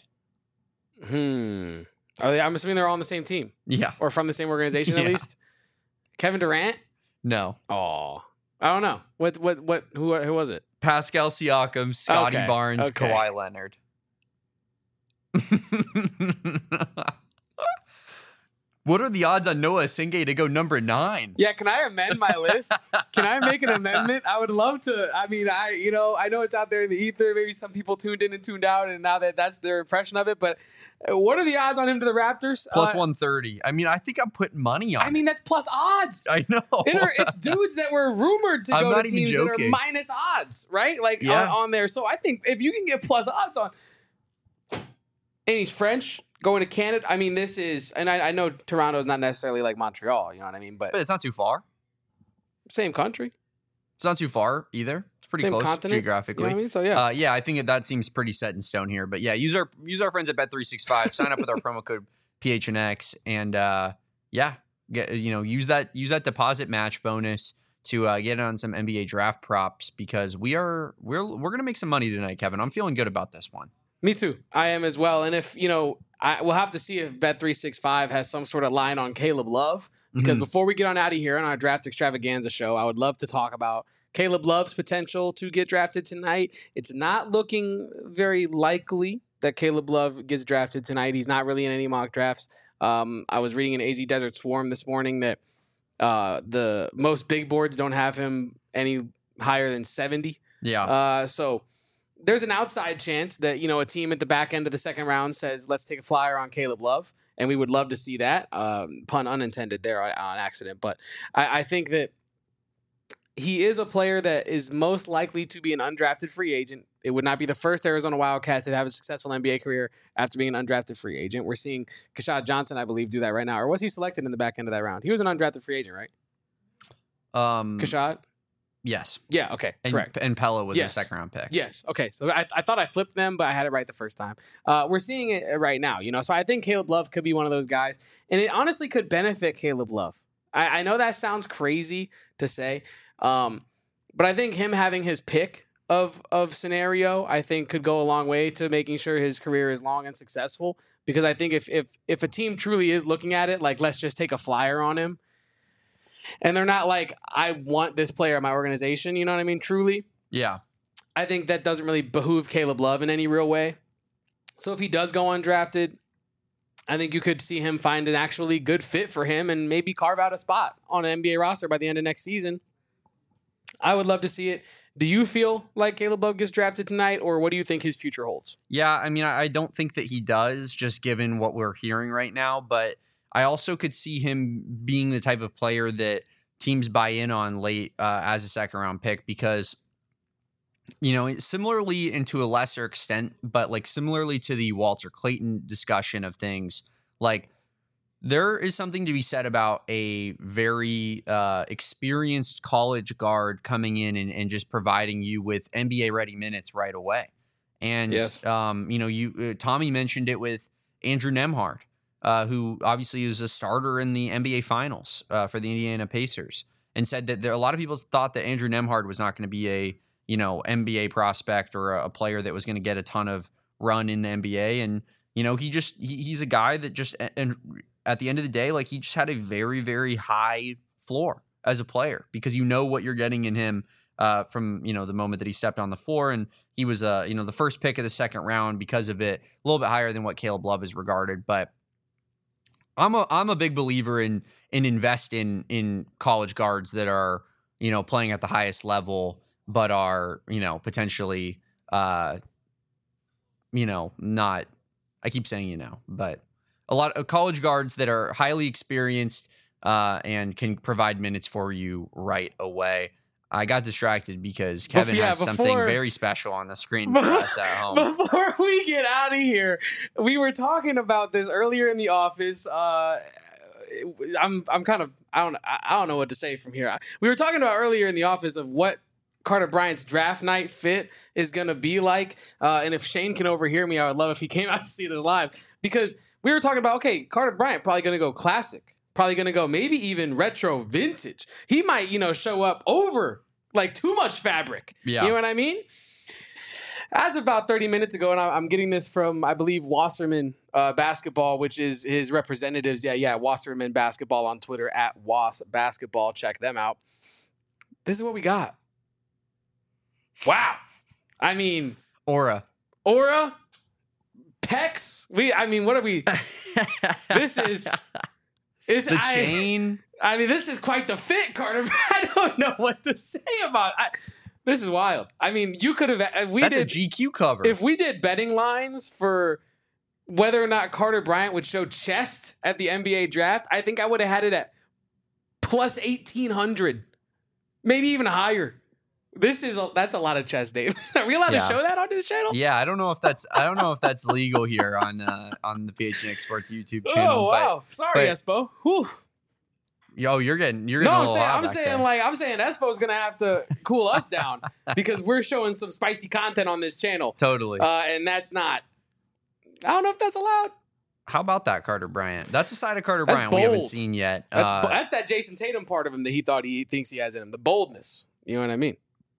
Hmm. Are they, I'm assuming they're all on the same team. Yeah, or from the same organization at yeah. least. Kevin Durant. No. Oh, I don't know. What? What? What? Who? Who was it? Pascal Siakam, Scotty okay. Barnes, okay. Kawhi Leonard. What are the odds on Noah Senge to go number nine? Yeah, can I amend my list? Can I make an amendment? I would love to. I mean, I you know, I know it's out there in the ether. Maybe some people tuned in and tuned out, and now that that's their impression of it. But what are the odds on him to the Raptors? Plus uh, one thirty. I mean, I think I'm putting money on I mean, it. that's plus odds. I know. It are, it's dudes that were rumored to I'm go not to even teams that are joking. minus odds, right? Like Yeah. on, on there. So I think if you can get plus odds on, and he's French. Going to Canada, I mean, this is, and I, I know Toronto is not necessarily like Montreal, you know what I mean? But, But it's not too far. same country, It's not too far either. It's pretty same close continent, geographically. You know what I mean? So yeah, Uh, yeah, I think that, that seems pretty set in stone here. But yeah, use our use our friends at Bet three sixty-five. Sign up with our promo code P H N X, and uh, yeah, get you know use that use that deposit match bonus to uh, get on some N B A draft props because we are we're we're gonna make some money tonight, Kevin. I'm feeling good about this one. me too. I am as well. And if you know, I we'll have to see if Bet three sixty-five has some sort of line on Caleb Love because Mhm. before we get on out of here on our draft extravaganza show, I would love to talk about Caleb Love's potential to get drafted tonight. It's not looking very likely that Caleb Love gets drafted tonight. He's not really in any mock drafts. Um, I was reading in A Z Desert Swarm this morning that uh, the most big boards don't have him any higher than seventy. Yeah. Uh, so there's an outside chance that, you know, a team at the back end of the second round says, let's take a flyer on Caleb Love. And we would love to see that. Um, pun unintended there on, on accident. But I, I think that he is a player that is most likely to be an undrafted free agent. It would not be the first Arizona Wildcat to have a successful N B A career after being an undrafted free agent. We're seeing Keshad Johnson, I believe, do that right now. Or was he selected in the back end of that round? He was an undrafted free agent, right? Um, Keshad? Yes. Yeah, okay, and, correct. And Pella was Yes. a second round pick. Yes. Okay. So I, I thought I flipped them, but I had it right the first time. Uh, we're seeing it right now, you know. So I think Caleb Love could be one of those guys, and it honestly could benefit Caleb Love. I, I know that sounds crazy to say, um, but I think him having his pick of of scenario, I think, could go a long way to making sure his career is long and successful. Because I think if if if a team truly is looking at it like, let's just take a flyer on him, and they're not like, I want this player in my organization, you know what I mean? Truly. Yeah. I think that doesn't really behoove Caleb Love in any real way. So if he does go undrafted, I think you could see him find an actually good fit for him and maybe carve out a spot on an N B A roster by the end of next season. I would love to see it. Do you feel like Caleb Love gets drafted tonight, or what do you think his future holds? Yeah, I mean, I I don't think that he does, just given what we're hearing right now, but I also could see him being the type of player that teams buy in on late uh, as a second round pick because, you know, similarly and to a lesser extent, but like similarly to the Walter Clayton discussion of things, like there is something to be said about a very uh, experienced college guard coming in and, and just providing you with N B A ready minutes right away. And, Yes. um, you know, you uh, Tommy mentioned it with Andrew Nembhard. Uh, who obviously was a starter in the N B A Finals uh, for the Indiana Pacers, and said that there a lot of people thought that Andrew Nembhard was not going to be a you know N B A prospect or a, a player that was going to get a ton of run in the N B A, and you know he just he, he's a guy that just and at the end of the day, like he just had a very very high floor as a player because you know what you're getting in him uh, from you know the moment that he stepped on the floor, and he was uh, you know the first pick of the second round because of it, a little bit higher than what Caleb Love is regarded, but. I'm a I'm a big believer in in invest in in college guards that are you know playing at the highest level, but are you know potentially uh you know not. I keep saying you know, but a lot of college guards that are highly experienced uh, and can provide minutes for you right away. I got distracted because Kevin yeah, has before- something very special on the screen for us at home. Before we get out of here, we were talking about this earlier in the office. Uh, I'm I'm kind of I don't I don't know what to say from here. We were talking about earlier in the office of what Carter Bryant's draft night fit is going to be like. Uh, and if Shane can overhear me, I would love if he came out to see this live, because we were talking about, okay, Carter Bryant probably going to go classic. Probably going to go maybe even retro vintage. He might, you know, show up over like too much fabric. Yeah. You know what I mean? As of about thirty minutes ago, and I'm getting this from, I believe, Wasserman uh, Basketball, which is his representatives. Yeah, yeah, Wasserman Basketball on Twitter, at Was Basketball. Check them out. This is what we got. Wow. I mean, Aura. Aura, Pecs. We, I mean, what are we? This is... Is, The I, chain. I mean, this is quite the fit, Carter. I don't know what to say about it. This is wild. I mean, you could have. We That's did a G Q cover. if we did betting lines for whether or not Carter Bryant would show chest at the N B A draft. I think I would have had it at plus eighteen hundred, maybe even higher. This is a, that's a lot of chest, Dave. Are we allowed Yeah. to show that on this channel? Yeah, I don't know if that's I don't know if that's legal here on uh, on the P H N X Sports YouTube channel. Oh wow! Sorry, but- Espo. Whew. But, yo, you're getting you're No, getting a I'm little saying, hot I'm back saying there. like, I'm saying Espo's gonna have to cool us down because we're showing some spicy content on this channel, Totally. uh, and that's not. I don't know if that's allowed. How about that, Carter Bryant? That's a side of Carter That's Bryant we haven't bold. seen yet. That's Uh, that's that Jason Tatum part of him that he thought he thinks he has in him, the boldness. You know what I mean?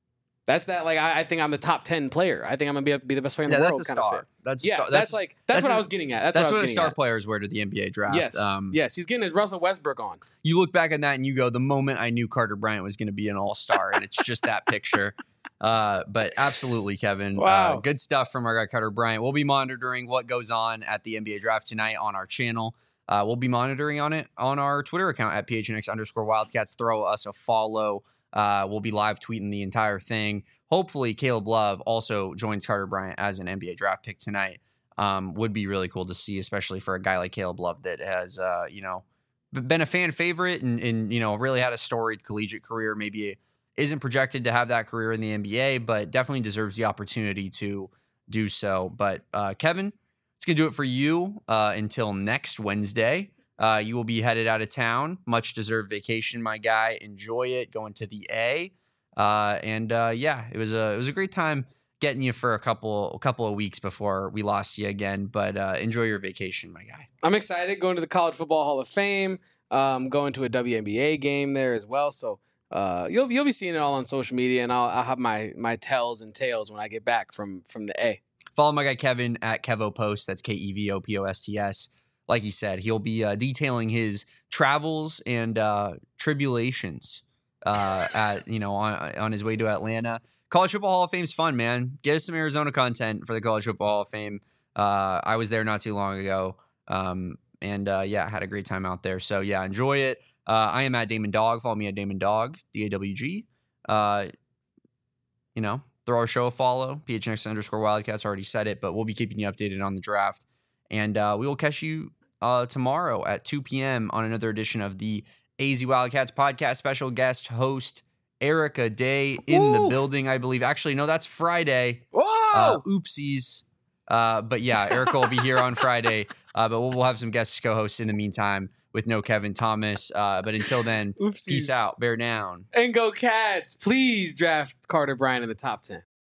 That's that. Like I, I think I'm the top ten player. I think I'm gonna be, be the best player in yeah, the that's world. a Kind of star. fit. That's yeah. star. That's, that's like that's, that's what a, I was getting at. That's, that's what, I what was a getting star at. players wear to the N B A draft. Yes. Um, yes. He's getting his Russell Westbrook on. You look back at that and you go, the moment I knew Carter Bryant was going to be an all star, and it's just that picture. Uh, but absolutely, Kevin. Wow. Uh, good stuff from our guy Carter Bryant. We'll be monitoring what goes on at the N B A draft tonight on our channel. Uh, we'll be monitoring on it on our Twitter account at P H N X underscore Wildcats. Throw us a follow. Uh, we'll be live tweeting the entire thing. Hopefully, Caleb Love also joins Carter Bryant as an N B A draft pick tonight. Um, would be really cool to see, especially for a guy like Caleb Love that has, uh, you know, been a fan favorite and, and, you know, really had a storied collegiate career. Maybe isn't projected to have that career in the N B A, but definitely deserves the opportunity to do so. But uh, Kevin, it's going to do it for you uh, until next Wednesday. Uh, you will be headed out of town. Much deserved vacation, my guy. Enjoy it. Going to the A. Uh, and uh, yeah, it was a it was a great time getting you for a couple a couple of weeks before we lost you again. But uh, enjoy your vacation, my guy. I'm excited going to the College Football Hall of Fame. Um, going to a W N B A game there as well. So uh, you'll you'll be seeing it all on social media, and I'll I'll have my my tells and tales when I get back from from the A. Follow my guy Kevin at Kevo Post. That's K E V O P O S T S. Like he said, he'll be uh, detailing his travels and uh, tribulations uh, at you know on, on his way to Atlanta. College Football Hall of Fame's fun, man. Get us some Arizona content for the College Football Hall of Fame. Uh, I was there not too long ago, um, and uh, yeah, had a great time out there. So yeah, enjoy it. Uh, I am at Damon Dog. Follow me at Damon Dog, D A W G. Uh, you know, throw our show a follow. P H N X underscore Wildcats. Already said it, but we'll be keeping you updated on the draft. And uh, we will catch you uh, tomorrow at two p.m. on another edition of the A Z Wildcats podcast. Special guest host Erica Day in Woo! the building, I believe. Actually, no, that's Friday. Whoa! Uh, oopsies. Uh, but yeah, Erica will be here on Friday. Uh, but we'll, we'll have some guest co-hosts in the meantime with no Kevin Thomas. Uh, but until then, Oopsies. peace out. Bear down. And go Cats. Please draft Carter Bryant in the top ten.